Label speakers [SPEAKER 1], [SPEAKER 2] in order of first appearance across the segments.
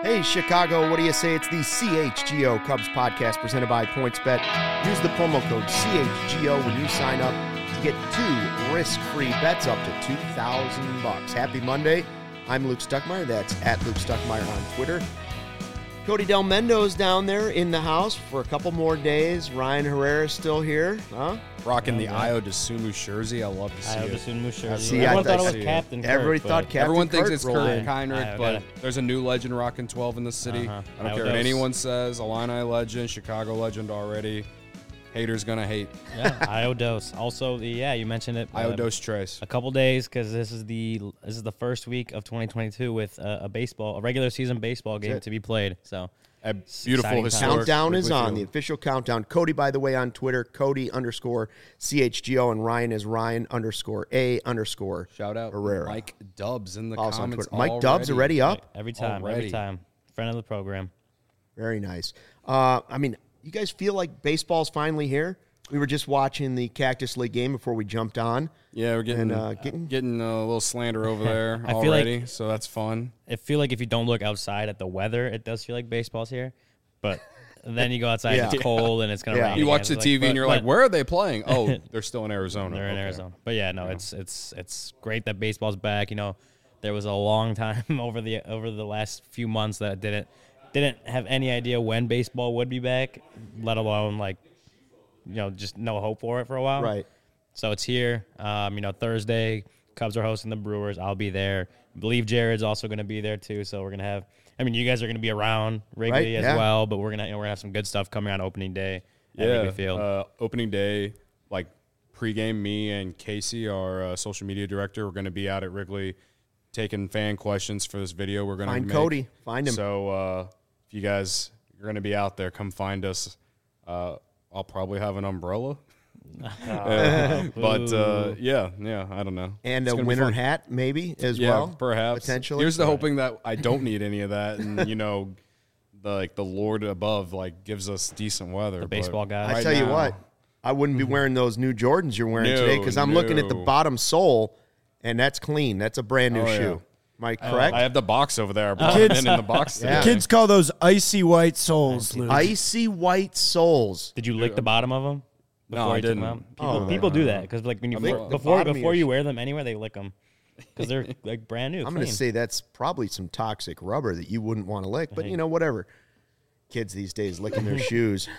[SPEAKER 1] Hey, Chicago, what do you say? It's the CHGO Cubs podcast presented by PointsBet. Use the promo code CHGO when you sign up to get 2 risk-free bets up to $2,000. Happy Monday. I'm Luke Stuckmeyer. That's at Luke Stuckmeyer on Twitter. Cody Del Mendo's down there in the house for a couple more days. Ryan Herrera's still here. Huh?
[SPEAKER 2] Rocking the Ayo DeSumo jersey. I love to see
[SPEAKER 3] Ayo
[SPEAKER 2] it.
[SPEAKER 3] DeSumo jersey.
[SPEAKER 1] See,
[SPEAKER 3] Everyone
[SPEAKER 1] I
[SPEAKER 3] thought it was
[SPEAKER 2] see
[SPEAKER 3] Captain Kirk.
[SPEAKER 1] Everybody thought Captain
[SPEAKER 2] Everyone thinks
[SPEAKER 1] Kirk
[SPEAKER 2] it's
[SPEAKER 1] rolled
[SPEAKER 2] Kirk
[SPEAKER 1] in.
[SPEAKER 2] Heinrich, but there's a new legend rocking 12 in the city. I don't care what anyone says. Illini legend, Chicago legend already. Haters gonna hate.
[SPEAKER 3] Yeah, Ayo Dos. Also, you mentioned it.
[SPEAKER 2] Ayo Dos Tres.
[SPEAKER 3] A couple days because this is the first week of 2022 with a regular season baseball game to be played. So.
[SPEAKER 2] A beautiful historic
[SPEAKER 1] Countdown is on,
[SPEAKER 2] field.
[SPEAKER 1] the official countdown. Cody, by the way, on Twitter, Cody_CHGO, and Ryan is Ryan_A_
[SPEAKER 2] Shout out
[SPEAKER 1] Herrera.
[SPEAKER 2] Mike Dubs in the
[SPEAKER 1] Also on
[SPEAKER 2] comments.
[SPEAKER 1] Twitter. Mike Dubs already up?
[SPEAKER 3] Every time. Friend of the program.
[SPEAKER 1] Very nice. You guys feel like baseball's finally here? We were just watching the Cactus League game before we jumped on.
[SPEAKER 2] Yeah, we're getting a little slander over there already, so that's fun.
[SPEAKER 3] I feel like if you don't look outside at the weather, it does feel like baseball's here. But then you go outside, it's cold, and it's going to rain.
[SPEAKER 2] You watch the TV, and you're like, where are they playing? Oh, they're still in Arizona.
[SPEAKER 3] They're in Arizona. But, it's great that baseball's back. You know, there was a long time over the last few months that didn't have any idea when baseball would be back, let alone, just no hope for it for a while.
[SPEAKER 1] Right.
[SPEAKER 3] So it's here. Thursday, Cubs are hosting the Brewers. I'll be there. I believe Jared's also going to be there too. So we're going to have. You guys are going to be around Wrigley as well, but we're gonna have some good stuff coming on opening day at Wrigley Field.
[SPEAKER 2] Opening day, pregame, me and Casey, our social media director, we're going to be out at Wrigley taking fan questions for this video. We're going to
[SPEAKER 1] find Cody. Find him.
[SPEAKER 2] So if you guys are going to be out there, come find us. I'll probably have an umbrella. I don't know.
[SPEAKER 1] And a winter hat, maybe, as well?
[SPEAKER 2] Perhaps.
[SPEAKER 1] Potentially.
[SPEAKER 2] Here's the hoping that I don't need any of that, and, the Lord above, gives us decent weather.
[SPEAKER 3] The baseball guy.
[SPEAKER 1] I tell you what, I wouldn't be wearing those new Jordans you're wearing today, because I'm looking at the bottom sole, and that's clean. That's a brand new shoe. Am I correct?
[SPEAKER 2] I have the box over there. I brought it in the box today.
[SPEAKER 4] Kids call those icy white soles, Luke.
[SPEAKER 1] Icy white soles.
[SPEAKER 3] Did you lick the bottom of them?
[SPEAKER 2] No, I didn't.
[SPEAKER 3] People do that because when you before you wear them anywhere, they lick them because they're brand new.
[SPEAKER 1] I'm going to say that's probably some toxic rubber that you wouldn't want to lick, but whatever. Kids these days licking their shoes.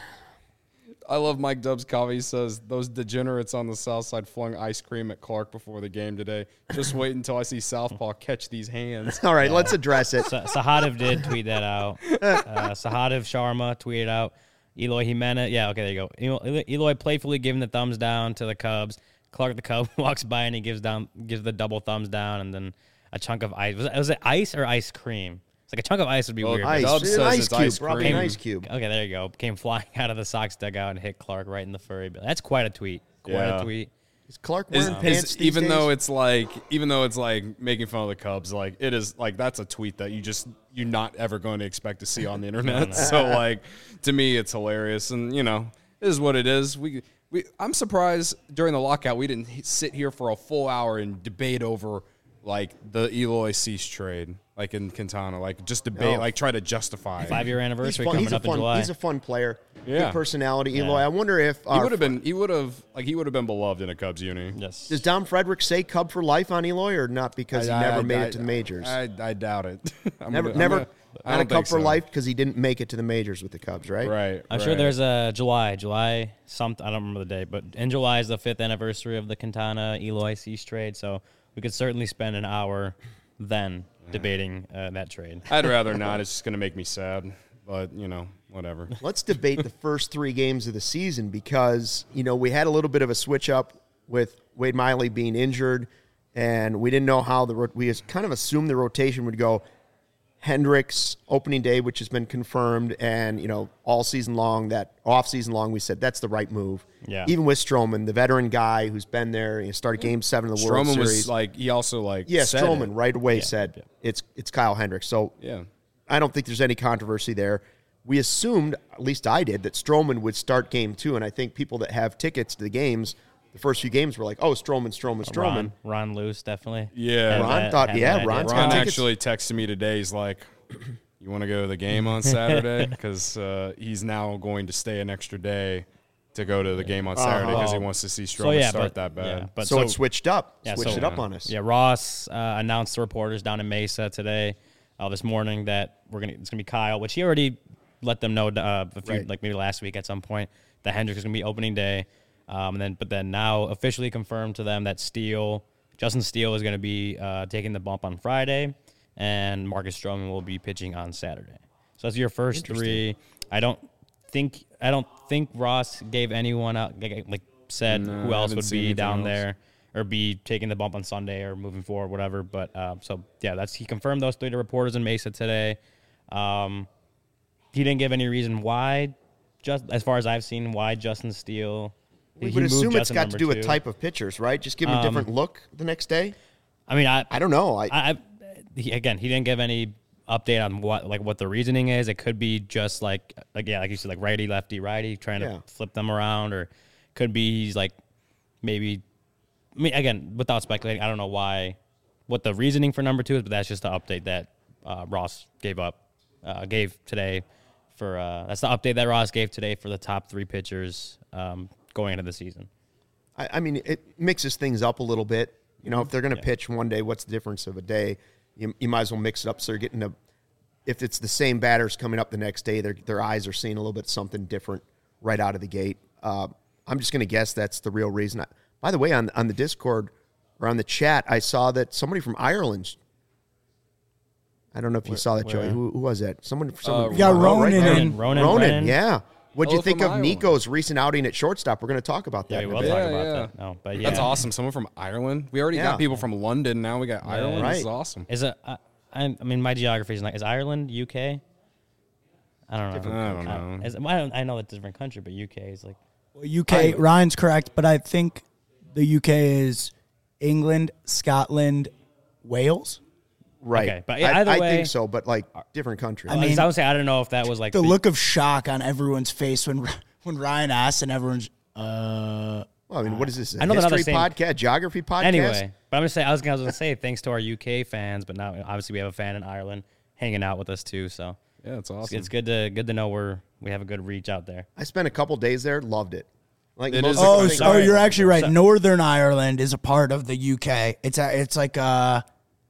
[SPEAKER 2] I love Mike Dubs' comment. He says, those degenerates on the south side flung ice cream at Clark before the game today. Just wait until I see Southpaw catch these hands.
[SPEAKER 1] All right, let's address it.
[SPEAKER 3] Sahadev did tweet that out. Sahadev Sharma tweeted out. Eloy Jimenez. Yeah, okay, there you go. Eloy playfully giving the thumbs down to the Cubs. Clark the Cub walks by and he gives the double thumbs down, and then a chunk of ice. Was it ice or ice cream? It's like a chunk of ice would be weird.
[SPEAKER 1] Ice.
[SPEAKER 2] Dubs
[SPEAKER 1] An
[SPEAKER 2] says
[SPEAKER 1] ice
[SPEAKER 2] it's
[SPEAKER 1] cube.
[SPEAKER 2] ice
[SPEAKER 1] Probably
[SPEAKER 2] cream.
[SPEAKER 1] an ice cube.
[SPEAKER 3] Okay, there you go. Came flying out of the Sox dugout and hit Clark right in the furry. That's quite a tweet. A tweet.
[SPEAKER 1] Is Clark wearing pants these
[SPEAKER 2] even
[SPEAKER 1] days?
[SPEAKER 2] though it's making fun of the Cubs, it is that's a tweet that you're not ever going to expect to see on the internet. So to me it's hilarious, and it is what it is. I'm surprised during the lockout we didn't sit here for a full hour and debate over the Eloy Cease trade, in Quintana, just debate, try to justify
[SPEAKER 3] 5-year anniversary coming up in July.
[SPEAKER 1] He's a fun player.
[SPEAKER 2] Yeah.
[SPEAKER 1] Good personality, Eloy. I wonder if
[SPEAKER 2] he would have been beloved in a Cubs uni.
[SPEAKER 3] Yes.
[SPEAKER 1] Does Dom Frederick say Cub for life on Eloy, or not because he never made it to the majors?
[SPEAKER 2] I doubt it.
[SPEAKER 1] Never had a Cub for life because he didn't make it to the majors with the Cubs, right?
[SPEAKER 2] Right.
[SPEAKER 3] I'm sure there's a July something. I don't remember the date, but in July is the 5th anniversary of the Quintana Eloy Cease trade. So we could certainly spend an hour then debating that trade.
[SPEAKER 2] I'd rather not. It's just going to make me sad. But, whatever.
[SPEAKER 1] Let's debate the first 3 games of the season because, we had a little bit of a switch up with Wade Miley being injured, and we didn't know how we kind of assumed the rotation would go. Hendricks opening day, which has been confirmed, and all season long, that off season long, we said that's the right move.
[SPEAKER 3] Yeah.
[SPEAKER 1] Even with Stroman, the veteran guy who's been there, started Game 7 of the World Series.
[SPEAKER 2] Was he also said
[SPEAKER 1] Stroman
[SPEAKER 2] it.
[SPEAKER 1] right away said it's Kyle Hendricks. So I don't think there's any controversy there. We assumed, at least I did, that Stroman would start Game 2, and I think people that have tickets to the games. The first few games were like, Stroman.
[SPEAKER 3] Ron Luce, definitely.
[SPEAKER 2] Yeah.
[SPEAKER 1] Ron
[SPEAKER 2] Ron
[SPEAKER 1] got tickets.
[SPEAKER 2] actually texted me today. He's like, you you want to go to the game on Saturday? Because he's now going to stay an extra day to go to the game on Saturday because he wants to see Stroman start that bad.
[SPEAKER 3] Yeah, but
[SPEAKER 1] So it switched up.
[SPEAKER 3] Yeah,
[SPEAKER 1] Switched it up on us.
[SPEAKER 3] Yeah, Ross announced to reporters down in Mesa today, this morning, that it's gonna be Kyle, which he already let them know like maybe last week at some point that Hendricks is gonna be opening day, but then now officially confirmed to them that Justin Steele is gonna be taking the bump on Friday, and Marcus Stroman will be pitching on Saturday. So that's your first three. I don't think Ross gave anyone out said who else would be down there or be taking the bump on Sunday or moving forward, whatever. But he confirmed those three to reporters in Mesa today. He didn't give any reason why, just as far as I've seen, why Justin Steele.
[SPEAKER 1] We would assume it's got to do with type of pitchers, right? Just give him a different look the next day.
[SPEAKER 3] I mean, I
[SPEAKER 1] don't know.
[SPEAKER 3] He didn't give any update on what the reasoning is. It could be just like you said, like righty, lefty, righty, trying to flip them around, or could be he's like maybe. I mean, again, without speculating, I don't know what the reasoning for number 2 is, but that's just the update that Ross gave today. That's the update that Ross gave today for the top 3 pitchers going into the season.
[SPEAKER 1] I mean, it mixes things up a little bit. You know, if they're going to pitch one day, what's the difference of a day? You might as well mix it up so you're getting if it's the same batters coming up the next day, their eyes are seeing a little bit something different right out of the gate. I'm just going to guess that's the real reason. By the way, on the Discord or on the chat, I saw that somebody from Ireland. I don't know if you saw that, Joey. Who was that? Someone
[SPEAKER 4] we got Ronan.
[SPEAKER 3] Ronan.
[SPEAKER 1] Yeah. What'd you think of
[SPEAKER 2] Ireland.
[SPEAKER 1] Nico's recent outing at shortstop? We're going to talk about that.
[SPEAKER 3] Yeah, we will talk about that. No, but yeah,
[SPEAKER 2] That's awesome. Someone from Ireland. We already got people from London. Now we got Ireland.
[SPEAKER 1] right.
[SPEAKER 2] This is awesome.
[SPEAKER 3] Is it? I mean, my geography is is Ireland UK? I don't know. I know it's a different country, but UK is like.
[SPEAKER 4] Well, UK, Ryan's correct, but I think the UK is England, Scotland, Wales.
[SPEAKER 1] Right.
[SPEAKER 3] Okay, but either way,
[SPEAKER 1] I think so, but like different countries.
[SPEAKER 3] I would say I don't know if that was like
[SPEAKER 4] the look of shock on everyone's face when Ryan asked, and everyone's.
[SPEAKER 1] Well, I mean, what is this?
[SPEAKER 3] I know they're not the
[SPEAKER 1] history
[SPEAKER 3] same-
[SPEAKER 1] podcast, geography podcast.
[SPEAKER 3] Anyway, but I'm just saying. I was gonna say thanks to our UK fans, but now obviously we have a fan in Ireland hanging out with us too. So
[SPEAKER 2] Yeah, it's awesome.
[SPEAKER 3] it's good to know we have a good reach out there.
[SPEAKER 1] I spent a couple days there, loved it. Like
[SPEAKER 2] It
[SPEAKER 1] most
[SPEAKER 2] is
[SPEAKER 1] of
[SPEAKER 2] a
[SPEAKER 1] the
[SPEAKER 2] great-
[SPEAKER 1] things-
[SPEAKER 4] So you're actually right.
[SPEAKER 3] So-
[SPEAKER 4] Northern Ireland is a part of the UK. It's like a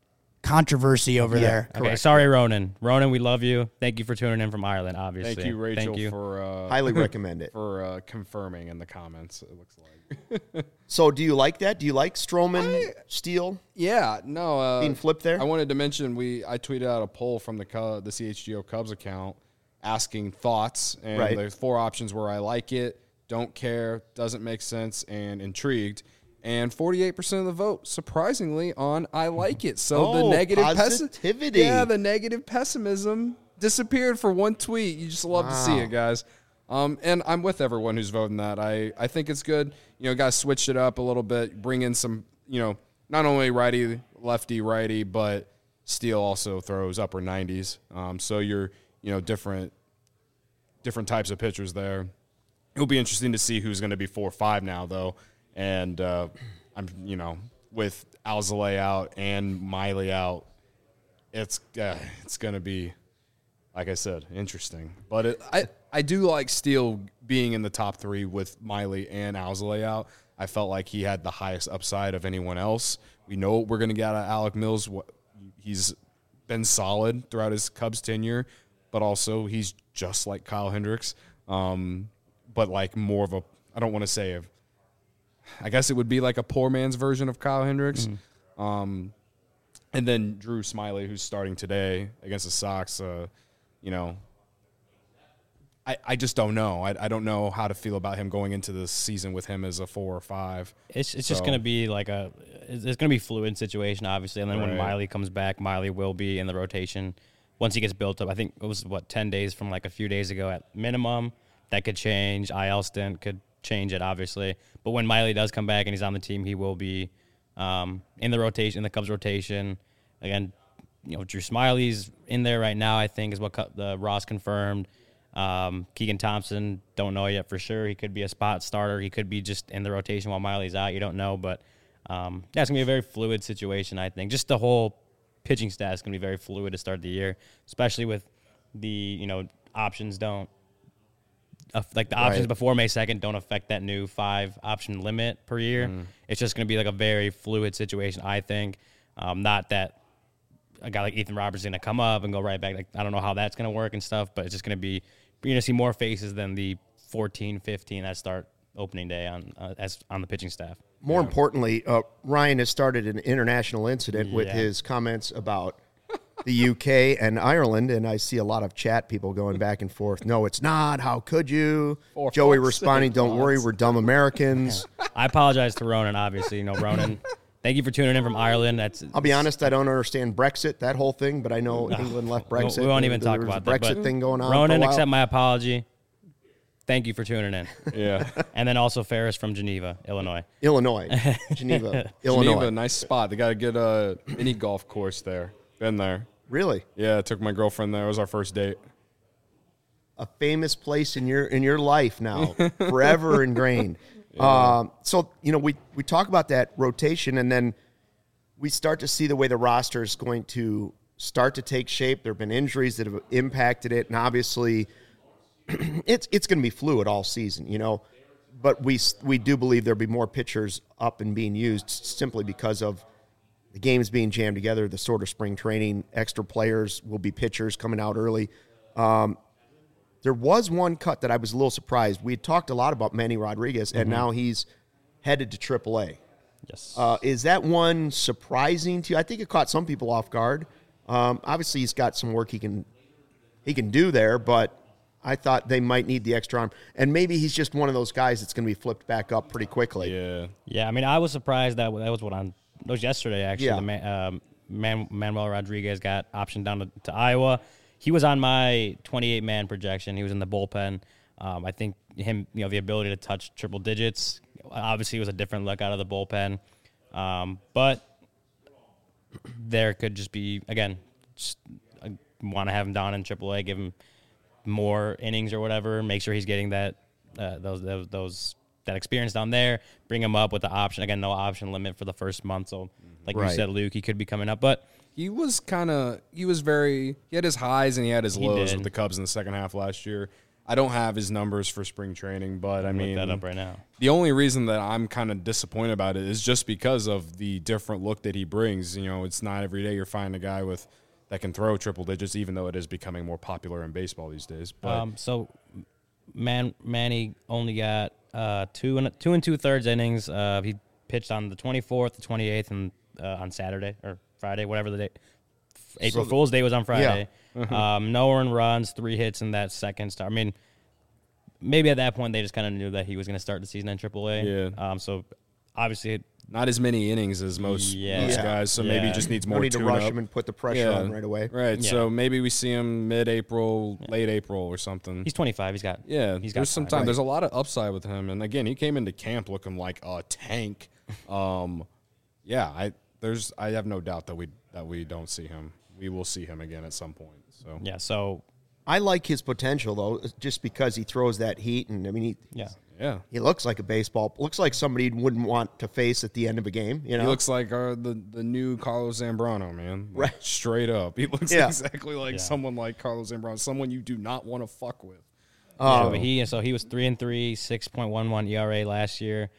[SPEAKER 4] controversy over there.
[SPEAKER 3] Okay,
[SPEAKER 1] Correct.
[SPEAKER 3] sorry, Ronan. Ronan, we love you. Thank you for tuning in from Ireland. Obviously,
[SPEAKER 2] Thank you, Rachel,
[SPEAKER 3] Thank you.
[SPEAKER 2] for
[SPEAKER 1] highly recommend it.
[SPEAKER 2] for confirming in the comments. It looks like.
[SPEAKER 1] So, do you like that? Do you like Stroman Steele
[SPEAKER 2] Yeah, no.
[SPEAKER 1] being flipped there?
[SPEAKER 2] I wanted to mention I tweeted out a poll from the CHGO Cubs account asking thoughts, and
[SPEAKER 1] Right.
[SPEAKER 2] there's 4 options where I like it, don't care, doesn't make sense, and intrigued. And 48% of the vote, surprisingly, on I like it. So the negative
[SPEAKER 1] positivity.
[SPEAKER 2] the negative pessimism disappeared for one tweet. You just love to see it, guys. And I'm with everyone who's voting that. I think it's good. You know, guys switch it up a little bit, bring in some, not only righty, lefty, righty, but Steele also throws upper 90s. So you're, different types of pitchers there. It'll be interesting to see who's going to be 4-5 now, though. And I'm, with Alzolay out and Miley out, it's going to be, like I said, interesting. But I do like Steele being in the top 3 with Miley and Alzolay out. I felt like he had the highest upside of anyone else. We know what we're going to get out of Alec Mills. He's been solid throughout his Cubs tenure, but also he's just like Kyle Hendricks, but like more of I don't want to say I guess it would be like a poor man's version of Kyle Hendricks. Mm-hmm. And then Drew Smyly, who's starting today against the Sox, I just don't know. I don't know how to feel about him going into this season with him as a 4 or 5.
[SPEAKER 3] It's just going to be it's going to be a fluid situation, obviously. And then when Miley comes back, Miley will be in the rotation once he gets built up. I think it was, 10 days from like a few days ago at minimum. That could change. IL stint could change it, obviously. But when Miley does come back and he's on the team, he will be in the rotation, in the Cubs rotation. Again, Drew Smyly's in there right now, I think, is what the Ross confirmed. Keegan Thompson, don't know yet for sure. He could be a spot starter. He could be just in the rotation while Miley's out. You don't know. But, it's going to be a very fluid situation, I think. Just the whole pitching staff is going to be very fluid to start the year, especially with the options don't like the options before May 2nd don't affect that new 5 option limit per year. It's just going to be like a very fluid situation, I think. Not that a guy like Ethan Roberts is going to come up and go right back. Like, I don't know how that's going to work and stuff, but it's just going to be, you're going to see more faces than the 14, 15 that start opening day on the pitching staff.
[SPEAKER 1] More importantly, Ryan has started an international incident with his comments about the UK and Ireland, and I see a lot of chat people going back and forth. No, it's not. How could you? Joey responding, don't worry, we're dumb Americans.
[SPEAKER 3] I apologize to Ronan, obviously. Ronan, thank you for tuning in from Ireland.
[SPEAKER 1] I'll be honest, I don't understand Brexit, that whole thing, but I know England left Brexit.
[SPEAKER 3] We won't even talk about that.
[SPEAKER 1] Brexit thing going on.
[SPEAKER 3] Ronan, accept my apology. Thank you for tuning in.
[SPEAKER 2] Yeah.
[SPEAKER 3] And then also Ferris from Geneva, Illinois.
[SPEAKER 1] Geneva, Illinois.
[SPEAKER 2] Geneva, nice spot. They got a good mini golf course there. Been there.
[SPEAKER 1] Really?
[SPEAKER 2] Yeah, I took my girlfriend there. It was our first date.
[SPEAKER 1] A famous place in your life now, forever ingrained. So, we talk about that rotation, and then we start to see the way the roster is going to start to take shape. There have been injuries that have impacted it, and obviously it's going to be fluid all season, But we do believe there'll be more pitchers up and being used simply because of the games being jammed together, the sort of spring training, extra players will be pitchers coming out early. There was one cut that I was a little surprised. We had talked a lot about Manny Rodriguez, and now he's headed to AAA.
[SPEAKER 3] Yes.
[SPEAKER 1] Is that one surprising to you? I think it caught some people off guard. Obviously, he's got some work he can do there, but I thought they might need the extra arm. And maybe he's just one of those guys that's going to be flipped back up pretty quickly.
[SPEAKER 2] Yeah.
[SPEAKER 3] Yeah, I mean, I was surprised that was yesterday, actually.
[SPEAKER 1] Yeah.
[SPEAKER 3] Manuel Rodriguez got optioned down to Iowa. He was on my 28-man projection. He was in the bullpen. I think him, the ability to touch triple digits, obviously was a different look out of the bullpen. But there could just be, again, want to have him down in AAA, give him more innings or whatever, make sure he's getting that that experience down there, bring him up with the option. Again, no option limit for the first month. So like you said, Luke, he could be coming up. But
[SPEAKER 2] he had his highs and he had his lows with the Cubs in the second half last year. I don't have his numbers for spring training, but I mean,
[SPEAKER 3] look that up right now.
[SPEAKER 2] The only reason that I'm kind of disappointed about it is just because of the different look that he brings. It's not every day you're finding a guy that can throw triple digits, even though it is becoming more popular in baseball these days. But
[SPEAKER 3] so Manny only got 2 2/3 innings. He pitched on the 24th, the 28th, and on Saturday or Friday, whatever the day. April Fool's Day was on Friday. Yeah. No earned runs, 3 hits in that second start. I mean, maybe at that point they just kind of knew that he was going to start the season in AAA.
[SPEAKER 2] Yeah.
[SPEAKER 3] So obviously,
[SPEAKER 2] not as many innings as most guys, so maybe he just needs more.
[SPEAKER 1] We need to rush him and put the pressure on right away.
[SPEAKER 2] Right. Yeah. So maybe we see him mid-April, late April, or something.
[SPEAKER 3] He's 25. He's got
[SPEAKER 2] There's some time. Right. There's a lot of upside with him, and again, he came into camp looking like a tank. I have no doubt that we don't see him. We will see him again at some point. So
[SPEAKER 1] I like his potential though, just because he throws that heat, and I mean he looks like a baseball. Looks like somebody you wouldn't want to face at the end of a game.
[SPEAKER 2] He looks like the new Carlos Zambrano, man.
[SPEAKER 1] Right,
[SPEAKER 2] straight up. He looks exactly like someone like Carlos Zambrano, someone you do not want to fuck with.
[SPEAKER 3] But he was 3-3, 6.11 ERA last year,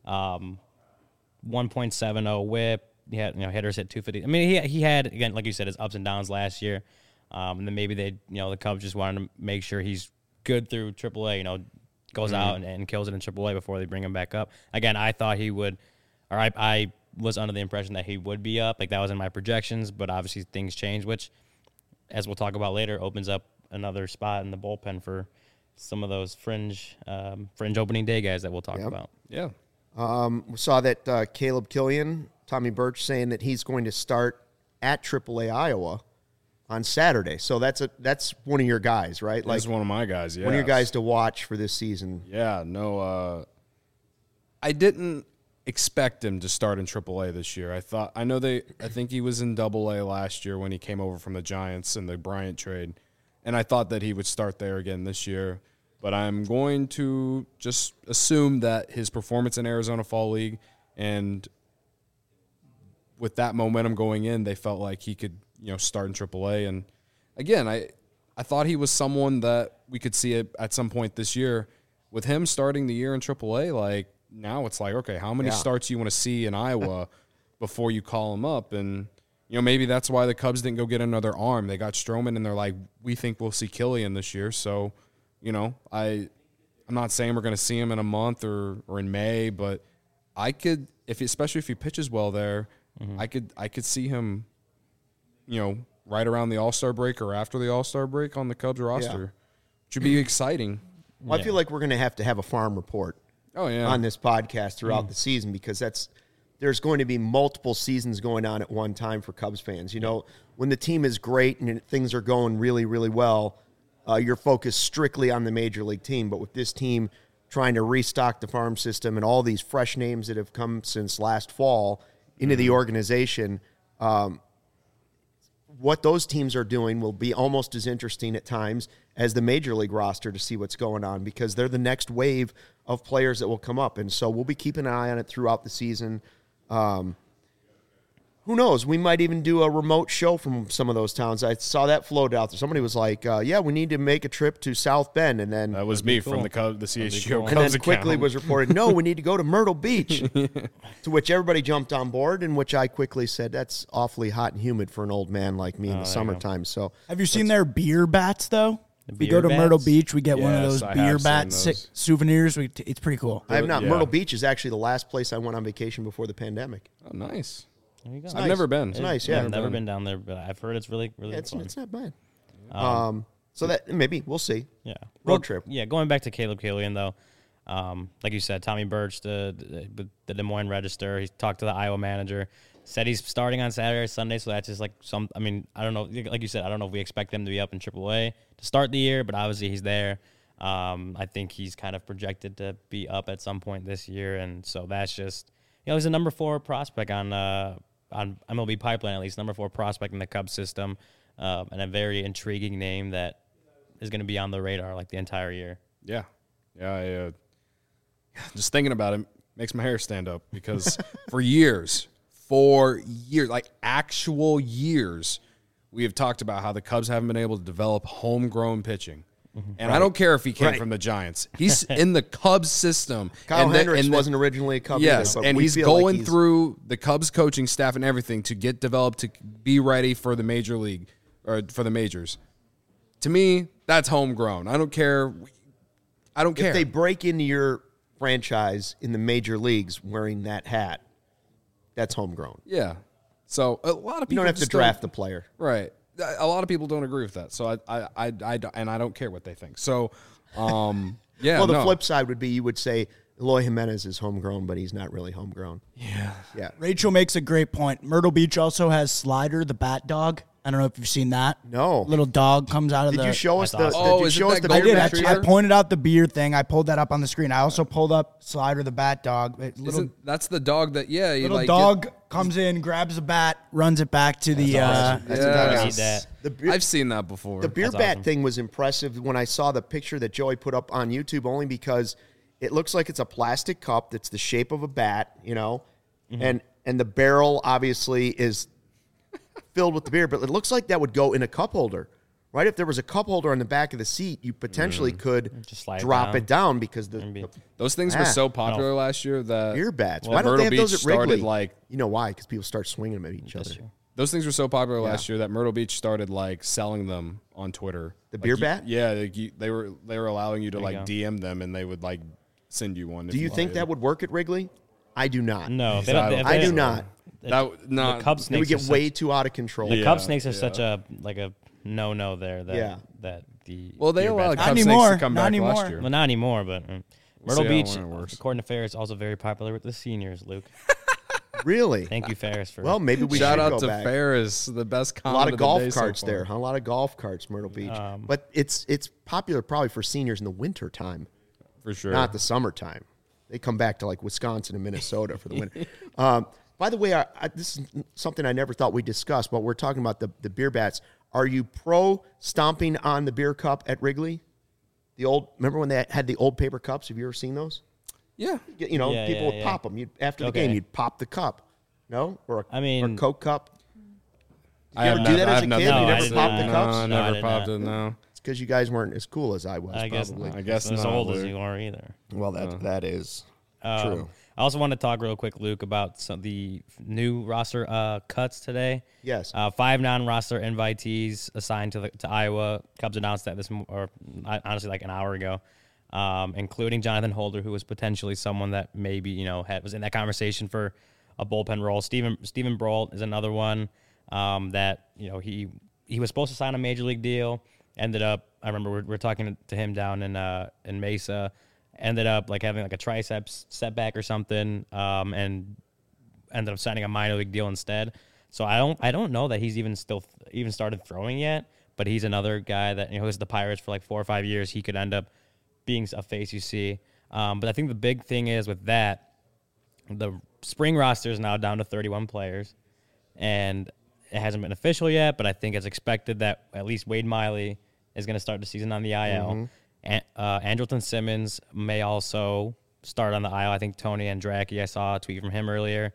[SPEAKER 3] 1.70 WHIP. He had hitters hit 250. I mean, he had, again, like you said, his ups and downs last year. And then maybe the Cubs just wanted to make sure he's good through AAA. Goes out and kills it in AAA before they bring him back up. Again, I thought he would, or I was under the impression that he would be up. Like that was in my projections, but obviously things change, which, as we'll talk about later, opens up another spot in the bullpen for some of those fringe opening day guys that we'll talk about.
[SPEAKER 2] Yeah.
[SPEAKER 1] We saw that Caleb Killian, Tommy Birch, saying that he's going to start at AAA Iowa on Saturday. So that's one of your guys, right?
[SPEAKER 2] That's one of my guys, yeah.
[SPEAKER 1] One of your guys to watch for this season.
[SPEAKER 2] Yeah, no, I didn't expect him to start in AAA this year. I think he was in AA last year when he came over from the Giants in the Bryant trade, and I thought that he would start there again this year. But I'm going to just assume that his performance in Arizona Fall League and with that momentum going in, they felt like he could, start in AAA. And again, I thought he was someone that we could see it at some point this year. With him starting the year in AAA, like now it's like, okay, how many starts you want to see in Iowa before you call him up? And, maybe that's why the Cubs didn't go get another arm. They got Stroman, and they're like, we think we'll see Killian this year. So, I'm not saying we're going to see him in a month or in May, but I could, especially if he pitches well there, I could see him, right around the All-Star break or after the All-Star break on the Cubs roster, which would be exciting.
[SPEAKER 1] Well, I feel like we're going to have a farm report on this podcast throughout the season, because there's going to be multiple seasons going on at one time for Cubs fans. When the team is great and things are going really, really well, you're focused strictly on the major league team. But with this team trying to restock the farm system and all these fresh names that have come since last fall into the organization, what those teams are doing will be almost as interesting at times as the major league roster to see what's going on, because they're the next wave of players that will come up. And so we'll be keeping an eye on it throughout the season. Who knows? We might even do a remote show from some of those towns. I saw that floated out there. Somebody was like, we need to make a trip to South Bend. And then
[SPEAKER 2] that was me from the CHGO Cubs
[SPEAKER 1] and then
[SPEAKER 2] account.
[SPEAKER 1] quickly was reported, no, we need to go to Myrtle Beach, to which everybody jumped on board, and which I quickly said, that's awfully hot and humid for an old man like me in the summertime. So,
[SPEAKER 4] have you seen their beer bats, though? We
[SPEAKER 3] beer
[SPEAKER 4] go to
[SPEAKER 3] bats?
[SPEAKER 4] Myrtle Beach, we get one of
[SPEAKER 2] Yes,
[SPEAKER 4] those
[SPEAKER 2] I
[SPEAKER 4] beer
[SPEAKER 2] have
[SPEAKER 4] bat
[SPEAKER 2] seen those.
[SPEAKER 4] souvenirs. It's pretty cool.
[SPEAKER 1] I have not.
[SPEAKER 2] Yeah.
[SPEAKER 1] Myrtle Beach is actually the last place I went on vacation before the pandemic.
[SPEAKER 2] Oh, nice.
[SPEAKER 3] There you go.
[SPEAKER 2] I've never been.
[SPEAKER 1] It's nice, yeah.
[SPEAKER 3] I've never been down there, but I've heard it's really, really
[SPEAKER 1] It's
[SPEAKER 3] fun.
[SPEAKER 1] not bad. So that maybe we'll see.
[SPEAKER 3] Yeah.
[SPEAKER 1] Road trip.
[SPEAKER 3] Yeah, going back to Caleb Killian, though, like you said, Tommy Birch, the Des Moines Register, he talked to the Iowa manager, said he's starting on Saturday or Sunday, so that's just like I don't know, like you said, I don't know if we expect them to be up in AAA to start the year, but obviously he's there. I think he's kind of projected to be up at some point this year, and so that's just, he's a number 4 prospect on MLB Pipeline, at least, number 4 prospect in the Cubs system, and a very intriguing name that is going to be on the radar like the entire year.
[SPEAKER 2] Yeah. Yeah. Just thinking about it makes my hair stand up, because for years, like actual years, we have talked about how the Cubs haven't been able to develop homegrown pitching. And I don't care if he came from the Giants. He's in the Cubs system.
[SPEAKER 1] Kyle Hendricks wasn't originally a Cub.
[SPEAKER 2] Yes,
[SPEAKER 1] either, but
[SPEAKER 2] and
[SPEAKER 1] we
[SPEAKER 2] he's
[SPEAKER 1] feel like
[SPEAKER 2] going through the Cubs coaching staff and everything to get developed to be ready for the major league or for the majors. To me, that's homegrown. I don't care.
[SPEAKER 1] If they break into your franchise in the major leagues wearing that hat, that's homegrown.
[SPEAKER 2] Yeah. So a lot of people
[SPEAKER 1] You don't have to
[SPEAKER 2] just
[SPEAKER 1] draft the player.
[SPEAKER 2] Right. A lot of people don't agree with that. So I don't care what they think. So, yeah.
[SPEAKER 1] Well, the flip side would be you would say Eloy Jimenez is homegrown, but he's not really homegrown. Yeah.
[SPEAKER 4] Rachel makes a great point. Myrtle Beach also has Slider, the bat dog. I don't know if you've seen that.
[SPEAKER 1] No.
[SPEAKER 4] Little dog comes out of
[SPEAKER 1] Did
[SPEAKER 4] the...
[SPEAKER 1] you show us the?
[SPEAKER 3] That's awesome.
[SPEAKER 1] Did you
[SPEAKER 2] is it
[SPEAKER 1] show us
[SPEAKER 2] that
[SPEAKER 1] the
[SPEAKER 2] golden
[SPEAKER 1] beer
[SPEAKER 4] I
[SPEAKER 1] bat
[SPEAKER 4] did.
[SPEAKER 2] retriever?
[SPEAKER 4] I pointed out the beer thing. I pulled that up on the screen. I also pulled up Slider, the bat dog.
[SPEAKER 2] That's the dog that, you
[SPEAKER 4] Little
[SPEAKER 2] like
[SPEAKER 4] dog comes in, grabs the bat, runs it back to the...
[SPEAKER 1] That's
[SPEAKER 2] Yeah.
[SPEAKER 1] a
[SPEAKER 3] I need that.
[SPEAKER 1] The beer,
[SPEAKER 2] I've seen that before.
[SPEAKER 1] the beer
[SPEAKER 3] That's
[SPEAKER 1] bat
[SPEAKER 3] awesome.
[SPEAKER 1] thing was impressive when I saw the picture that Joey put up on YouTube, only because it looks like it's a plastic cup that's the shape of a bat, and the barrel obviously is filled with the beer, but it looks like that would go in a cup holder, right? If there was a cup holder on the back of the seat, you potentially could
[SPEAKER 3] Just slide it
[SPEAKER 1] drop
[SPEAKER 3] down.
[SPEAKER 1] it down because
[SPEAKER 3] Maybe.
[SPEAKER 2] Those things were so popular last year that
[SPEAKER 1] beer bats.
[SPEAKER 2] Well,
[SPEAKER 1] Why don't
[SPEAKER 2] Myrtle
[SPEAKER 1] they have those
[SPEAKER 2] Beach
[SPEAKER 1] at Wrigley?
[SPEAKER 2] started,
[SPEAKER 1] You know why? Because people start swinging them at each other.
[SPEAKER 2] those things were so popular last year that Myrtle Beach started like selling them on Twitter.
[SPEAKER 1] The
[SPEAKER 2] Like,
[SPEAKER 1] beer bat?
[SPEAKER 2] Yeah, they were allowing you to
[SPEAKER 3] There you
[SPEAKER 2] like
[SPEAKER 3] go.
[SPEAKER 2] DM them, and they would like send you one.
[SPEAKER 1] Do you think that would work at Wrigley? I do not.
[SPEAKER 3] No,
[SPEAKER 2] So I don't
[SPEAKER 1] I do not.
[SPEAKER 2] not
[SPEAKER 3] The Cub
[SPEAKER 1] They
[SPEAKER 3] snakes
[SPEAKER 1] would get
[SPEAKER 3] are such-
[SPEAKER 1] way too out of control.
[SPEAKER 3] The
[SPEAKER 2] Yeah.
[SPEAKER 3] Cub snakes are such a no there that
[SPEAKER 1] Yeah.
[SPEAKER 3] that the
[SPEAKER 2] Well, they
[SPEAKER 3] beer
[SPEAKER 2] allowed
[SPEAKER 3] bats-
[SPEAKER 2] Cub
[SPEAKER 4] anymore.
[SPEAKER 2] snakes to come
[SPEAKER 4] Not
[SPEAKER 2] back
[SPEAKER 4] anymore.
[SPEAKER 2] last year.
[SPEAKER 3] well, not anymore, but Myrtle
[SPEAKER 2] see
[SPEAKER 3] Beach,
[SPEAKER 2] when it works.
[SPEAKER 3] according to Ferris, also very popular with the seniors. Luke,
[SPEAKER 1] Really?
[SPEAKER 3] thank you, Ferris, for
[SPEAKER 1] Well, maybe we
[SPEAKER 2] Shout
[SPEAKER 1] should
[SPEAKER 2] out
[SPEAKER 1] go
[SPEAKER 2] to
[SPEAKER 1] back.
[SPEAKER 2] Ferris, the best
[SPEAKER 1] A
[SPEAKER 2] comment
[SPEAKER 1] lot of
[SPEAKER 2] of the
[SPEAKER 1] golf
[SPEAKER 2] day so
[SPEAKER 1] carts
[SPEAKER 2] far.
[SPEAKER 1] there, huh? A lot of golf carts, Myrtle Beach. But it's popular probably for seniors in the winter time,
[SPEAKER 2] for sure.
[SPEAKER 1] not the summertime. They come back to like Wisconsin and Minnesota for the winter. By the way, this is something I never thought we'd discuss, but we're talking about the beer bats. Are you pro stomping on the beer cup at Wrigley? Remember when they had the old paper cups? Have you ever seen those?
[SPEAKER 2] Yeah.
[SPEAKER 1] People
[SPEAKER 3] Yeah,
[SPEAKER 1] would
[SPEAKER 3] yeah.
[SPEAKER 1] pop them. After the
[SPEAKER 3] Okay.
[SPEAKER 1] game, you'd pop the cup. No? Or
[SPEAKER 3] I mean-
[SPEAKER 1] or Coke cup?
[SPEAKER 2] I
[SPEAKER 1] ever
[SPEAKER 2] have
[SPEAKER 1] do that as a
[SPEAKER 2] I've
[SPEAKER 1] kid?
[SPEAKER 2] never-
[SPEAKER 1] You
[SPEAKER 3] No, I
[SPEAKER 1] never
[SPEAKER 3] did
[SPEAKER 1] popped
[SPEAKER 3] not.
[SPEAKER 1] the
[SPEAKER 2] No,
[SPEAKER 1] cups?
[SPEAKER 2] I
[SPEAKER 3] No, I
[SPEAKER 2] never
[SPEAKER 3] did
[SPEAKER 2] popped
[SPEAKER 3] not.
[SPEAKER 2] it, no.
[SPEAKER 1] because you guys weren't as cool as I was.
[SPEAKER 3] I guess
[SPEAKER 1] probably.
[SPEAKER 3] not.
[SPEAKER 2] I guess
[SPEAKER 3] as
[SPEAKER 2] not,
[SPEAKER 3] old as
[SPEAKER 2] Luke.
[SPEAKER 3] you are either.
[SPEAKER 1] Well, that is true.
[SPEAKER 3] I also want to talk real quick, Luke, about the new roster cuts today.
[SPEAKER 1] Yes.
[SPEAKER 3] 5 non-roster invitees assigned to Iowa. Cubs announced that honestly like an hour ago, including Jonathan Holder, who was potentially someone that maybe was in that conversation for a bullpen role. Stephen Brault is another one that he was supposed to sign a major league deal. Ended up, I remember we're talking to him down in Mesa. Ended up like having like a triceps setback or something, and ended up signing a minor league deal instead. So I don't know that he's even started throwing yet. But he's another guy that was the Pirates for like 4 or 5 years. He could end up being a face you see. But I think the big thing is with that, the spring roster is now down to 31 players, and it hasn't been official yet. But I think it's expected that at least Wade Miley is going to start the season on the IL.
[SPEAKER 1] Mm-hmm.
[SPEAKER 3] Andrelton Simmons may also start on the IL. I think Tony Andracki, I saw a tweet from him earlier,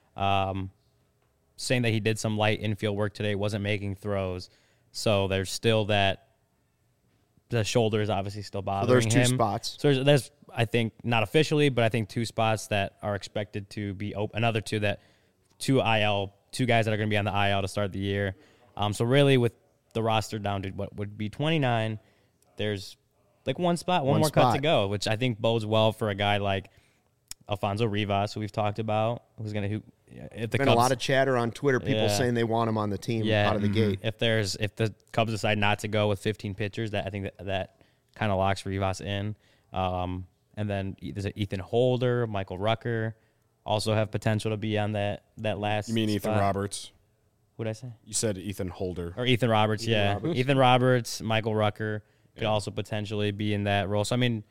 [SPEAKER 3] saying that he did some light infield work today, wasn't making throws. So there's still the shoulder is obviously still bothering him.
[SPEAKER 1] There's 2 spots.
[SPEAKER 3] So there's, I think, not officially, but I think 2 spots that are expected to be open. Another 2 guys that are going to be on the IL to start the year. So really with the roster down to what would be 29, there's like one more cut to go, which I think bodes well for a guy like Alfonso Rivas, who we've talked about, who's going to if the
[SPEAKER 1] Been
[SPEAKER 3] Cubs,
[SPEAKER 1] a lot of chatter on Twitter, people saying they want him on the team out of the gate.
[SPEAKER 3] If the Cubs decide not to go with 15 pitchers, I think that kind of locks Rivas in. And then there's Ethan Holder, Michael Rucker, also have potential to be on that last.
[SPEAKER 2] You mean Ethan
[SPEAKER 3] spot.
[SPEAKER 2] Roberts?
[SPEAKER 3] What'd I say?
[SPEAKER 2] You said Ethan Holder.
[SPEAKER 3] Or Ethan Roberts, Ethan Roberts, Michael Rucker could also potentially be in that role. So, I mean,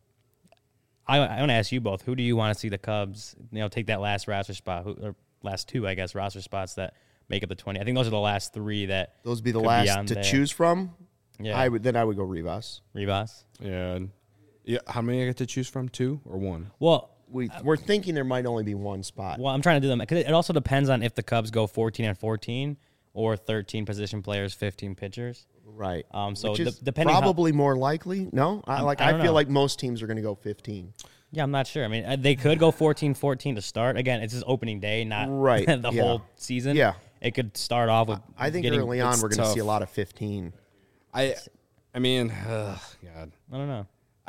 [SPEAKER 3] I want to ask you both, who do you want to see the Cubs, take that last roster spot, or last 2, I guess, roster spots that make up the 20? I think those are the last 3 that
[SPEAKER 1] Those would be the
[SPEAKER 3] could
[SPEAKER 1] last to
[SPEAKER 3] there.
[SPEAKER 1] choose from.
[SPEAKER 3] Yeah.
[SPEAKER 1] I would go Rivas.
[SPEAKER 3] Rivas?
[SPEAKER 2] Yeah. How many I get to choose from? 2 or 1?
[SPEAKER 3] Well,
[SPEAKER 1] We're thinking there might only be 1 spot.
[SPEAKER 3] I'm trying to do them because it also depends on if the Cubs go 14 and 14 or 13 position players, 15 pitchers.
[SPEAKER 1] Right.
[SPEAKER 3] So
[SPEAKER 1] Which is
[SPEAKER 3] depending
[SPEAKER 1] probably more likely. No, I
[SPEAKER 3] don't
[SPEAKER 1] feel
[SPEAKER 3] know.
[SPEAKER 1] like most teams are going to go 15.
[SPEAKER 3] Yeah, I'm not sure. I mean, they could go 14-14 to start. Again, it's just opening day, not
[SPEAKER 1] Right,
[SPEAKER 3] the
[SPEAKER 1] yeah.
[SPEAKER 3] whole season.
[SPEAKER 1] Yeah.
[SPEAKER 3] It could start off with
[SPEAKER 1] I think
[SPEAKER 3] getting,
[SPEAKER 1] early on
[SPEAKER 2] it's
[SPEAKER 1] we're going to see a
[SPEAKER 2] tough.
[SPEAKER 1] lot of 15.
[SPEAKER 2] I mean, God.
[SPEAKER 3] I don't know.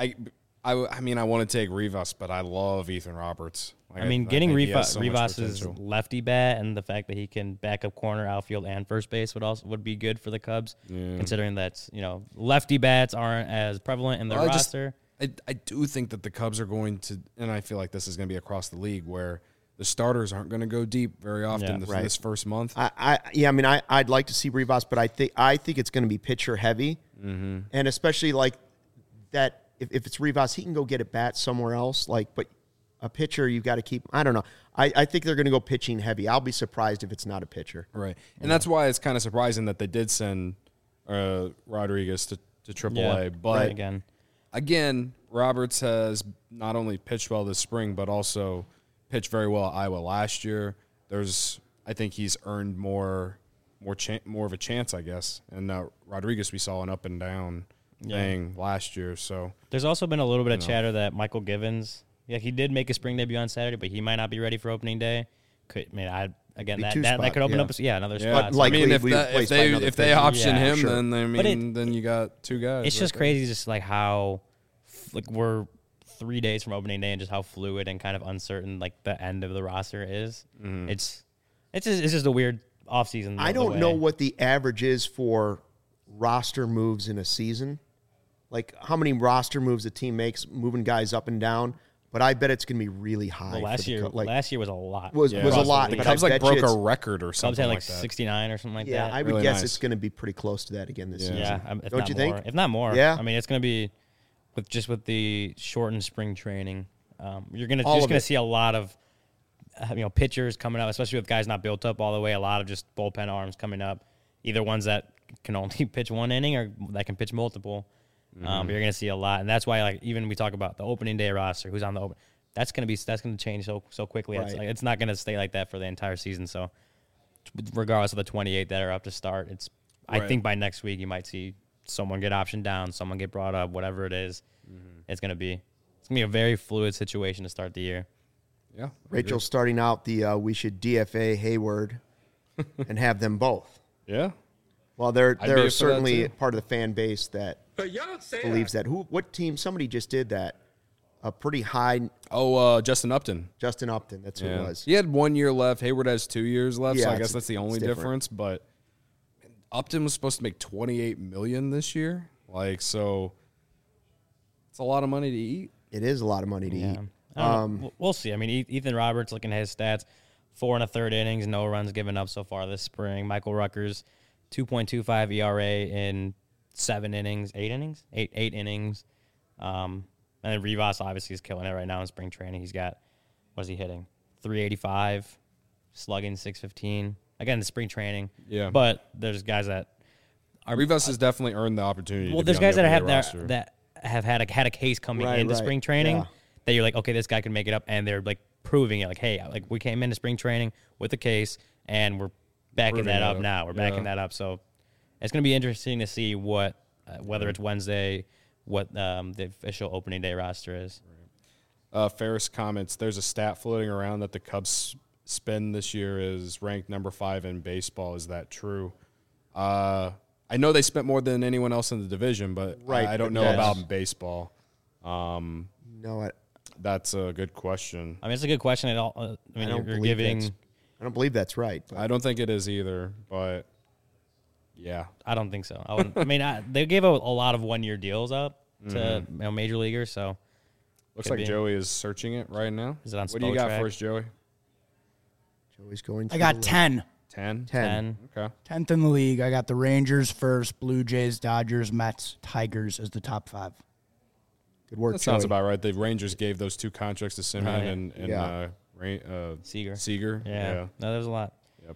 [SPEAKER 2] I mean, I want to take Rivas, but I love Ethan Roberts. Like,
[SPEAKER 3] I mean,
[SPEAKER 2] I
[SPEAKER 3] getting
[SPEAKER 2] think he has so much
[SPEAKER 3] Rivas's
[SPEAKER 2] potential.
[SPEAKER 3] lefty bat and the fact that he can back up corner, outfield, and first base would be good for the Cubs, considering that lefty bats aren't as prevalent in their roster.
[SPEAKER 2] I do think that the Cubs are going to, and I feel like this is going to be across the league, where the starters aren't going to go deep very often this first month.
[SPEAKER 1] I'd like to see Rivas, but I think it's going to be pitcher heavy, and especially like that. If it's Rivas, he can go get a bat somewhere else. But a pitcher, you've got to keep. I don't know. I think they're going to go pitching heavy. I'll be surprised if it's not a pitcher.
[SPEAKER 2] Right, and that's why it's kind of surprising that they did send Rodriguez to AAA. But again, Roberts has not only pitched well this spring, but also pitched very well at Iowa last year. I think he's earned more of a chance, I guess. And Rodriguez, we saw an up and down thing last year. So
[SPEAKER 3] there's also been a little bit of chatter that Michael Givens, he did make a spring debut on Saturday, but he might not be ready for opening day. That could open up another spot.
[SPEAKER 1] But
[SPEAKER 2] I mean, if they option him,
[SPEAKER 1] sure.
[SPEAKER 2] then you got 2 guys.
[SPEAKER 3] It's just crazy, just like how we're 3 days from opening day and just how fluid and kind of uncertain like the end of the roster is. Mm-hmm. It's just a weird offseason.
[SPEAKER 1] I don't know what the average is for roster moves in a season. Like how many roster moves a team makes, moving guys up and down. But I bet it's going to be really high.
[SPEAKER 3] Well, last year was a lot.
[SPEAKER 1] Was a lot.
[SPEAKER 2] The
[SPEAKER 1] But
[SPEAKER 2] Cubs
[SPEAKER 1] I bet
[SPEAKER 2] broke
[SPEAKER 1] you
[SPEAKER 2] a record or something
[SPEAKER 3] Cubs had
[SPEAKER 2] like that.
[SPEAKER 3] 69 or something like that.
[SPEAKER 1] Yeah, I would
[SPEAKER 2] Really
[SPEAKER 1] guess
[SPEAKER 2] nice.
[SPEAKER 1] it's going to be pretty close to that again this season.
[SPEAKER 3] Yeah,
[SPEAKER 1] Don't you think?
[SPEAKER 3] If not more.
[SPEAKER 1] Yeah.
[SPEAKER 3] I mean, it's going to be with the shortened spring training. You're going to see a lot of pitchers coming up, especially with guys not built up all the way. A lot of just bullpen arms coming up, either ones that can only pitch 1 inning or that can pitch multiple. But you're going to see a lot, and that's why even we talk about the opening day roster, who's on the open. That's going to change so quickly.
[SPEAKER 1] Right.
[SPEAKER 3] It's not going to stay like that for the entire season. So, regardless of the 28 that are up to start, I think by next week you might see someone get optioned down, someone get brought up, whatever it is, it's gonna be a very fluid situation to start the year.
[SPEAKER 2] Yeah.
[SPEAKER 1] Rachel's starting out the we should DFA Hayward and have them both.
[SPEAKER 2] Yeah.
[SPEAKER 1] Well,
[SPEAKER 2] I'd be
[SPEAKER 1] they're
[SPEAKER 2] for
[SPEAKER 1] certainly
[SPEAKER 2] that too.
[SPEAKER 1] part of the fan base that believes that. What team? Somebody just did that. A pretty high
[SPEAKER 2] Justin Upton.
[SPEAKER 1] Justin Upton. That's who it was.
[SPEAKER 2] He had 1 year left. Hayward has 2 years left, so
[SPEAKER 1] Yeah,
[SPEAKER 2] I guess that's the only
[SPEAKER 1] different.
[SPEAKER 2] difference. But Upton was supposed to make $28 million this year. Like, so it's a lot of money to eat.
[SPEAKER 1] It is a lot of money to eat.
[SPEAKER 3] I don't know. We'll see. I mean, Ethan Roberts, looking at his stats, 4 1/3 innings, no runs given up so far this spring. Michael Ruckers, 2.25 ERA in 7 innings, 8 innings, 8 innings. And then Rivas obviously is killing it right now in spring training. He's got, what is he hitting? 385, slugging 615. Again, the spring training.
[SPEAKER 2] Yeah.
[SPEAKER 3] But there's guys that are
[SPEAKER 2] Rivas has definitely earned the opportunity.
[SPEAKER 3] well,
[SPEAKER 2] to be
[SPEAKER 3] there's
[SPEAKER 2] on
[SPEAKER 3] guys
[SPEAKER 2] the
[SPEAKER 3] that have
[SPEAKER 2] opening roster.
[SPEAKER 3] that have had a case coming
[SPEAKER 1] Right,
[SPEAKER 3] into
[SPEAKER 1] right.
[SPEAKER 3] spring training
[SPEAKER 1] Yeah.
[SPEAKER 3] that you're like, okay, this guy can make it up, and they're like proving it. Like, hey, like we came into spring training with a case, and we're backing
[SPEAKER 2] Proving
[SPEAKER 3] that
[SPEAKER 2] it
[SPEAKER 3] up
[SPEAKER 2] up.
[SPEAKER 3] now. We're backing that up. So it's going to be interesting to see what whether it's Wednesday, what the official opening day roster is.
[SPEAKER 2] Ferris comments, there's a stat floating around that the Cubs spin this year is ranked number 5 in baseball. Is that true? I know they spent more than anyone else in the division, but
[SPEAKER 1] Right,
[SPEAKER 2] I don't
[SPEAKER 1] but
[SPEAKER 2] know
[SPEAKER 1] yes.
[SPEAKER 2] about baseball.
[SPEAKER 1] No,
[SPEAKER 2] That's a good question.
[SPEAKER 3] I mean, it's a good question. It all. I mean,
[SPEAKER 1] don't
[SPEAKER 3] you're
[SPEAKER 1] believe
[SPEAKER 3] giving.
[SPEAKER 1] that's- I don't believe that's right. But
[SPEAKER 2] I don't think it is either, but yeah.
[SPEAKER 3] I don't think so. I mean, they gave a lot of 1 year deals up to major leaguers. So
[SPEAKER 2] Looks
[SPEAKER 3] Could
[SPEAKER 2] like
[SPEAKER 3] be.
[SPEAKER 2] Joey is searching it right now.
[SPEAKER 3] Is it on
[SPEAKER 2] What do you got
[SPEAKER 3] Spotrac?
[SPEAKER 2] for us, Joey?
[SPEAKER 1] Joey's going.
[SPEAKER 4] I got 10.
[SPEAKER 2] 10?
[SPEAKER 3] 10.
[SPEAKER 2] Okay.
[SPEAKER 4] 10th in the league. I got the Rangers first, Blue Jays, Dodgers, Mets, Tigers as the top 5.
[SPEAKER 1] Good work,
[SPEAKER 2] That sounds
[SPEAKER 1] Joey.
[SPEAKER 2] about right. The Rangers gave those 2 contracts to Simeon
[SPEAKER 3] Right.
[SPEAKER 2] and
[SPEAKER 1] Yeah.
[SPEAKER 3] Seager.
[SPEAKER 2] Yeah.
[SPEAKER 3] Yeah. No, there's a lot.
[SPEAKER 2] Yep.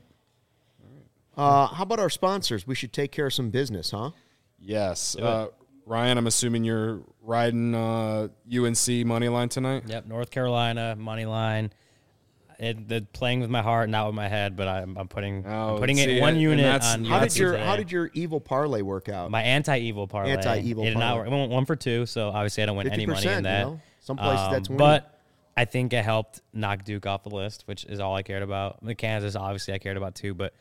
[SPEAKER 1] How about our sponsors? We should take care of some business, huh?
[SPEAKER 2] Yes.
[SPEAKER 3] it.
[SPEAKER 2] Ryan, I'm assuming you're riding UNC money line tonight.
[SPEAKER 3] Yep. North Carolina money line. They're playing with my heart, not with my head, but I'm putting
[SPEAKER 2] see,
[SPEAKER 3] it one
[SPEAKER 2] and
[SPEAKER 3] unit
[SPEAKER 2] that's-
[SPEAKER 3] on.
[SPEAKER 1] How
[SPEAKER 3] UNC
[SPEAKER 1] did your
[SPEAKER 3] today.
[SPEAKER 1] How did your evil parlay work out?
[SPEAKER 3] My anti-evil parlay?
[SPEAKER 1] Anti-evil
[SPEAKER 3] It did not
[SPEAKER 1] parlay.
[SPEAKER 3] work. I went 1 for 2, so obviously I don't win any money
[SPEAKER 1] 50%,
[SPEAKER 3] in that.
[SPEAKER 1] you know? Some places that's winning.
[SPEAKER 3] But I think it helped knock Duke off the list, which is all I cared about. I mean, Kansas, obviously, I cared about too, but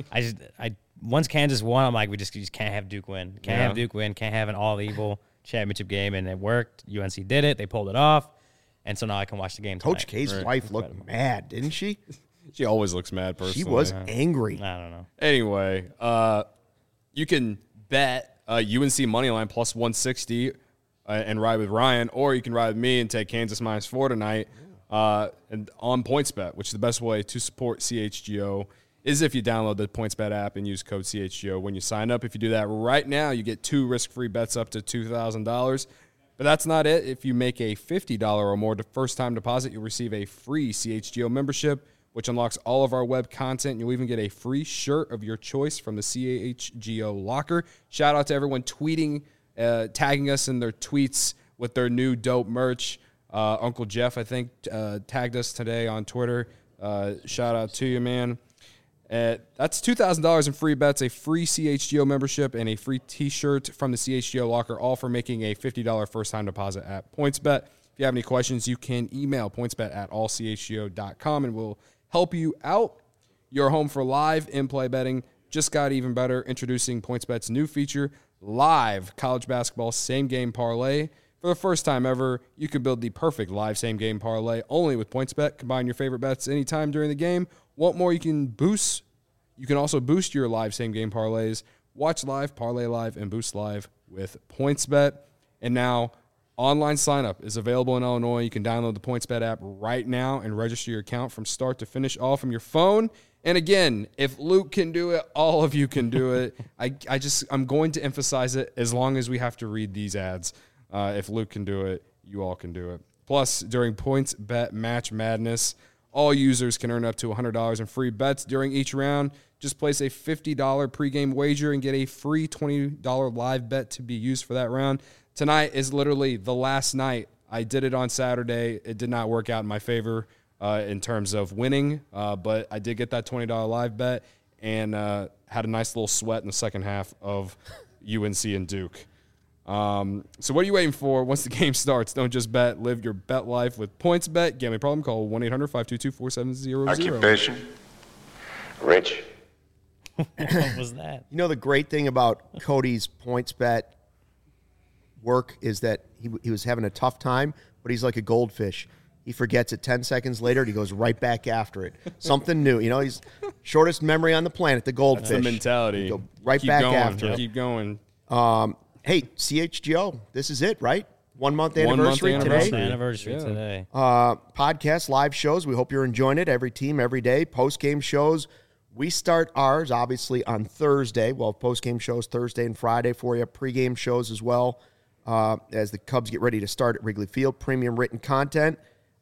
[SPEAKER 3] once Kansas won, I'm like, you just can't have Duke win. Can't have Duke win. Can't have an all-evil championship game, and it worked. UNC did it. They pulled it off, and so now I can watch the game
[SPEAKER 1] Coach
[SPEAKER 3] tonight.
[SPEAKER 1] K's wife looked mad, didn't she?
[SPEAKER 2] She always looks mad personally.
[SPEAKER 1] She was angry.
[SPEAKER 3] I don't know.
[SPEAKER 2] Anyway, you can bet UNC money line plus 160 and ride with Ryan, or you can ride with me and take Kansas -4 tonight and on PointsBet, which is the best way to support CHGO is if you download the PointsBet app and use code CHGO when you sign up. If you do that right now, you get 2 risk-free bets up to $2,000. But that's not it. If you make a $50 or more first-time deposit, you'll receive a free CHGO membership, which unlocks all of our web content. You'll even get a free shirt of your choice from the CHGO locker. Shout out to everyone tweeting, tagging us in their tweets with their new dope merch. Uncle Jeff, I think, tagged us today on Twitter. Shout out to you, man. That's $2,000 in free bets, a free CHGO membership, and a free T-shirt from the CHGO locker, all for making a $50 first-time deposit at PointsBet. If you have any questions, you can email pointsbet@allchgo.com, and we'll help you out. Your home for live in-play betting just got even better. Introducing PointsBet's new feature, Live College Basketball Same-Game Parlay. For the first time ever, you can build the perfect live same-game parlay only with PointsBet. Combine your favorite bets anytime during the game. Want more? You can also boost your live same-game parlays. Watch live, parlay live, and boost live with PointsBet. And now, online sign-up is available in Illinois. You can download the PointsBet app right now and register your account from start to finish, all from your phone. And again, if Luke can do it, all of you can do it. I'm going to emphasize it as long as we have to read these ads. If Luke can do it, you all can do it. Plus, during PointsBet Match Madness, all users can earn up to $100 in free bets during each round. Just place a $50 pregame wager and get a free $20 live bet to be used for that round. Tonight is literally the last night. I did it on Saturday. It did not work out in my favor in terms of winning, but I did get that $20 live bet and had a nice little sweat in the second half of UNC and Duke. So what are you waiting for? Once the game starts, don't just bet. Live your bet life with PointsBet. Gambling problem? Call 1-800-522-4700.
[SPEAKER 5] Occupation? Rich.
[SPEAKER 3] What was that?
[SPEAKER 1] You know, the great thing about Cody's PointsBet work is that he was having a tough time, but he's like a goldfish. He forgets it 10 seconds later, and he goes right back after it. Something new. You know, he's shortest memory on the planet, the goldfish.
[SPEAKER 2] That's the mentality.
[SPEAKER 1] Go right
[SPEAKER 2] Keep
[SPEAKER 1] back
[SPEAKER 2] going.
[SPEAKER 1] after it.
[SPEAKER 2] Keep going.
[SPEAKER 1] Hey, CHGO, this is it, right? 1 month anniversary
[SPEAKER 2] anniversary.
[SPEAKER 1] today.
[SPEAKER 3] Anniversary
[SPEAKER 2] Yeah.
[SPEAKER 3] today.
[SPEAKER 1] Podcast, live shows. We hope you're enjoying it. Every team, every day. Post-game shows. We start ours, obviously, on Thursday. We'll have post-game shows Thursday and Friday for you. Pre-game shows as well as the Cubs get ready to start at Wrigley Field. Premium written content,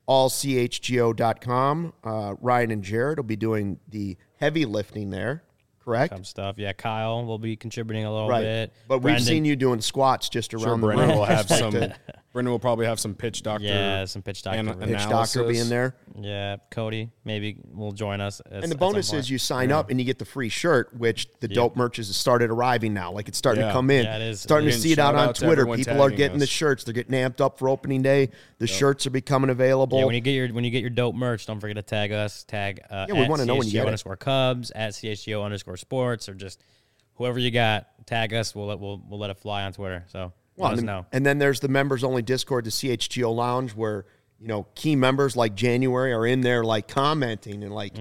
[SPEAKER 1] allchgo.com. Ryan and Jared will be doing the heavy lifting there, correct?
[SPEAKER 3] Cub stuff. Yeah, Kyle will be contributing a little
[SPEAKER 1] Right.
[SPEAKER 3] bit.
[SPEAKER 1] But we've
[SPEAKER 3] Brendan-
[SPEAKER 1] seen you doing squats just
[SPEAKER 2] Sure,
[SPEAKER 1] around the
[SPEAKER 2] Brendan
[SPEAKER 1] room.
[SPEAKER 2] will have
[SPEAKER 1] Like
[SPEAKER 2] some.
[SPEAKER 1] the
[SPEAKER 2] Brendan will probably have some pitch doctor.
[SPEAKER 3] Yeah, some pitch doctor.
[SPEAKER 2] and
[SPEAKER 3] Pitch
[SPEAKER 1] pitch
[SPEAKER 2] analysis.
[SPEAKER 1] doctor being there.
[SPEAKER 3] Yeah, Cody maybe will join us.
[SPEAKER 1] And the bonus is you sign up and you get the free shirt, which the dope merch has started arriving now. Like it's starting to
[SPEAKER 2] Yeah.
[SPEAKER 1] come in.
[SPEAKER 3] Yeah, it is.
[SPEAKER 1] Starting to
[SPEAKER 2] And
[SPEAKER 1] see it out
[SPEAKER 2] shout
[SPEAKER 1] on
[SPEAKER 2] out to
[SPEAKER 1] Twitter.
[SPEAKER 2] everyone
[SPEAKER 1] People are
[SPEAKER 2] tagging
[SPEAKER 1] getting the
[SPEAKER 2] us.
[SPEAKER 1] shirts. They're getting amped up for opening day. The shirts are becoming available.
[SPEAKER 3] Yeah, when you get your dope merch, don't forget to tag us. Tag
[SPEAKER 1] we
[SPEAKER 3] at
[SPEAKER 1] wanna know when you get it.
[SPEAKER 3] _Cubs, at _sports, or just whoever you got. Tag us. We'll let it fly on Twitter. So let us know.
[SPEAKER 1] And then there's the members only Discord, the CHGO Lounge, where key members like January are in there like commenting and like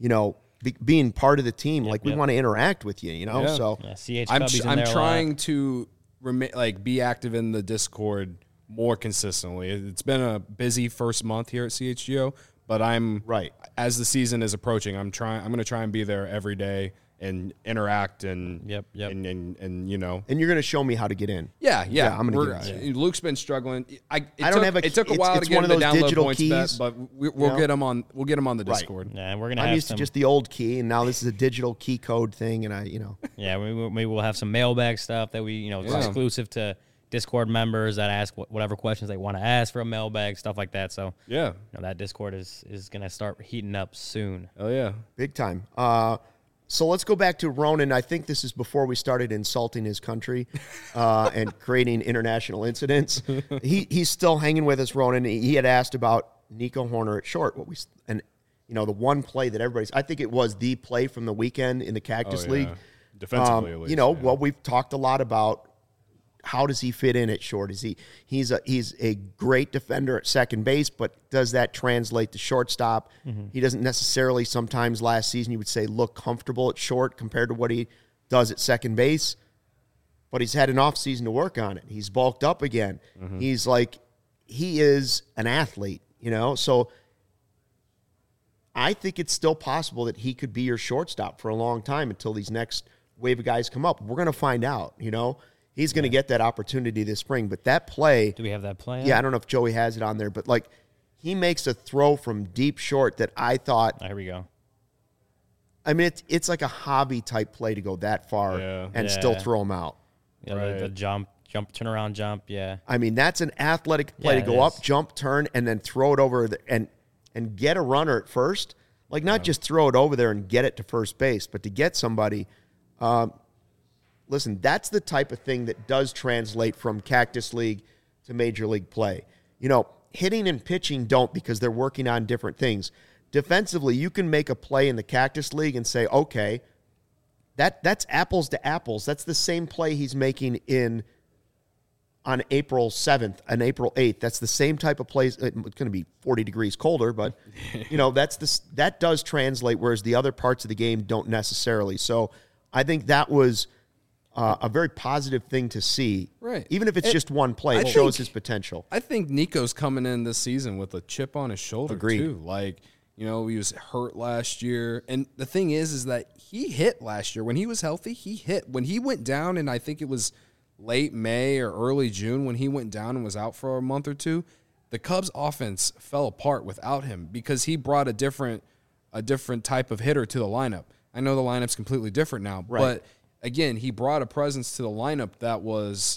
[SPEAKER 1] being part of the team. Like we
[SPEAKER 3] yep.
[SPEAKER 1] want to interact with you.
[SPEAKER 2] Yeah.
[SPEAKER 1] So
[SPEAKER 3] Yeah, CH
[SPEAKER 2] I'm
[SPEAKER 3] Cubbies in
[SPEAKER 2] I'm
[SPEAKER 3] there a lot.
[SPEAKER 2] trying to be active in the Discord more consistently. It's been a busy first month here at CHGO, but I'm
[SPEAKER 1] Right.
[SPEAKER 2] as the season is approaching. I'm going to try and be there every day and interact and
[SPEAKER 3] Yep.
[SPEAKER 2] and
[SPEAKER 1] and you're going to show me how to get in.
[SPEAKER 2] Yeah.
[SPEAKER 1] I'm gonna
[SPEAKER 2] We're-
[SPEAKER 1] get it.
[SPEAKER 2] Luke's been struggling.
[SPEAKER 1] It
[SPEAKER 2] took a while
[SPEAKER 1] it's
[SPEAKER 2] to get
[SPEAKER 1] one
[SPEAKER 2] him
[SPEAKER 1] of
[SPEAKER 2] to
[SPEAKER 1] those
[SPEAKER 2] download
[SPEAKER 1] digital
[SPEAKER 2] PointsBet,
[SPEAKER 1] keys,
[SPEAKER 2] but we'll get him on. We'll get him on the
[SPEAKER 1] Right.
[SPEAKER 2] Discord.
[SPEAKER 3] Yeah, and we're gonna
[SPEAKER 1] I'm
[SPEAKER 3] have
[SPEAKER 1] used
[SPEAKER 3] some.
[SPEAKER 1] to just the old key, and now this is a digital key code thing, and
[SPEAKER 3] Yeah, we will have some mailbag stuff that we exclusive to Discord members that ask whatever questions they want to ask for a mailbag, stuff like that. So
[SPEAKER 2] Yeah.
[SPEAKER 3] that Discord is gonna start heating up soon.
[SPEAKER 2] Oh yeah.
[SPEAKER 1] big time. So let's go back to Ronan. I think this is before we started insulting his country and creating international incidents. He's still hanging with us, Ronan. He had asked about Nico Horner at short. The one play that I think it was the play from the weekend in the Cactus
[SPEAKER 2] Oh,
[SPEAKER 1] League.
[SPEAKER 2] yeah. Defensively, at least.
[SPEAKER 1] Well, we've talked a lot about how does he fit in at short? He's a great defender at second base, but does that translate to shortstop?
[SPEAKER 3] Mm-hmm.
[SPEAKER 1] He doesn't necessarily sometimes last season you would say look comfortable at short compared to what he does at second base. But he's had an offseason to work on it. He's bulked up again.
[SPEAKER 2] Mm-hmm.
[SPEAKER 1] He is an athlete, So I think it's still possible that he could be your shortstop for a long time until these next wave of guys come up. We're going to find out, He's going to get that opportunity this spring. But that play,
[SPEAKER 3] Do we have that plan?
[SPEAKER 1] yeah, I don't know if Joey has it on there, but he makes a throw from deep short that I thought,
[SPEAKER 3] Here we go.
[SPEAKER 1] I mean, it's like a hobby type play to go that far
[SPEAKER 2] Yeah.
[SPEAKER 1] and still
[SPEAKER 3] Yeah.
[SPEAKER 1] throw him out.
[SPEAKER 3] Yeah,
[SPEAKER 2] Right.
[SPEAKER 3] the jump, turnaround jump. Yeah.
[SPEAKER 1] I mean, that's an athletic play
[SPEAKER 3] Yeah,
[SPEAKER 1] to go
[SPEAKER 3] it
[SPEAKER 1] up,
[SPEAKER 3] is.
[SPEAKER 1] jump, turn, and then throw it over and get a runner at first. Like not just throw it over there and get it to first base, but to get somebody. Listen, that's the type of thing that does translate from Cactus League to Major League play. Hitting and pitching don't because they're working on different things. Defensively, you can make a play in the Cactus League and say, okay, that's apples to apples. That's the same play he's making on April 7th and April 8th. That's the same type of plays. It's going to be 40 degrees colder, but that does translate, whereas the other parts of the game don't necessarily. So I think that was a very positive thing to see.
[SPEAKER 2] Right.
[SPEAKER 1] Even if it's just one play, it shows his potential.
[SPEAKER 2] I think Nico's coming in this season with a chip on his shoulder
[SPEAKER 1] Agreed.
[SPEAKER 2] too. He was hurt last year. And the thing is that he hit last year. When he was healthy, he hit. When he went down, and I think it was late May or early June when he went down and was out for a month or two, the Cubs offense fell apart without him because he brought a different type of hitter to the lineup. I know the lineup's completely different now, but again, he brought a presence to the lineup that was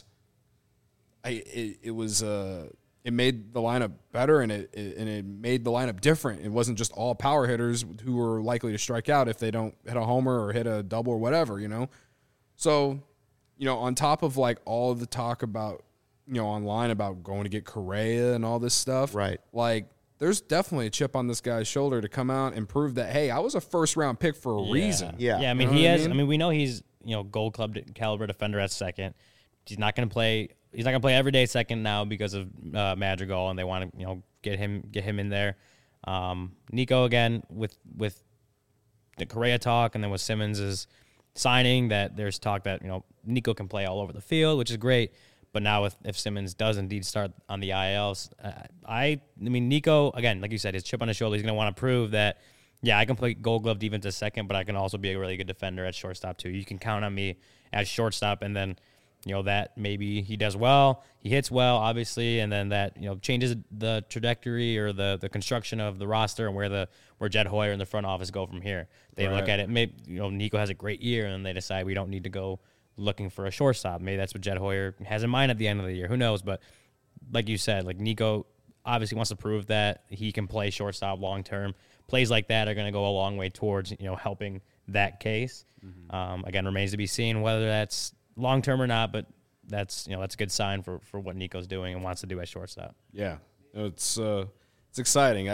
[SPEAKER 2] it made the lineup better and it made the lineup different. It wasn't just all power hitters who were likely to strike out if they don't hit a homer or hit a double or whatever, So on top of like all of the talk about, online about going to get Correa and all this stuff,
[SPEAKER 1] Right.
[SPEAKER 2] Like, there's definitely a chip on this guy's shoulder to come out and prove that, hey, I was a first-round pick for a reason.
[SPEAKER 1] Yeah.
[SPEAKER 3] Yeah, I mean,
[SPEAKER 2] You know
[SPEAKER 3] he
[SPEAKER 2] what I
[SPEAKER 3] has.
[SPEAKER 2] mean?
[SPEAKER 3] I mean, we know he's Gold Club caliber defender at second. He's not going to play. He's not going to play every day second now because of Madrigal, and they want to get him in there. Nico again with the Correa talk, and then with Simmons' signing, that there's talk that Nico can play all over the field, which is great. But now if Simmons does indeed start on the ILs, I mean, Nico, again, like you said, his chip on his shoulder, he's going to want to prove that, yeah, I can play Gold Glove defense at second, but I can also be a really good defender at shortstop too. You can count on me at shortstop, and then, that maybe he does well, he hits well, obviously, and then that, changes the trajectory or the construction of the roster and where Jed Hoyer and the front office go from here. They look at it, maybe, Nico has a great year, and then they decide we don't need to go looking for a shortstop. Maybe that's what Jed Hoyer has in mind at the end of the year. Who knows? But like you said, like Nico obviously wants to prove that he can play shortstop long term. Plays like that are going to go a long way towards helping that case. Again, remains to be seen whether that's long term or not. But that's that's a good sign for what Nico's doing and wants to do at shortstop.
[SPEAKER 2] Yeah, it's exciting.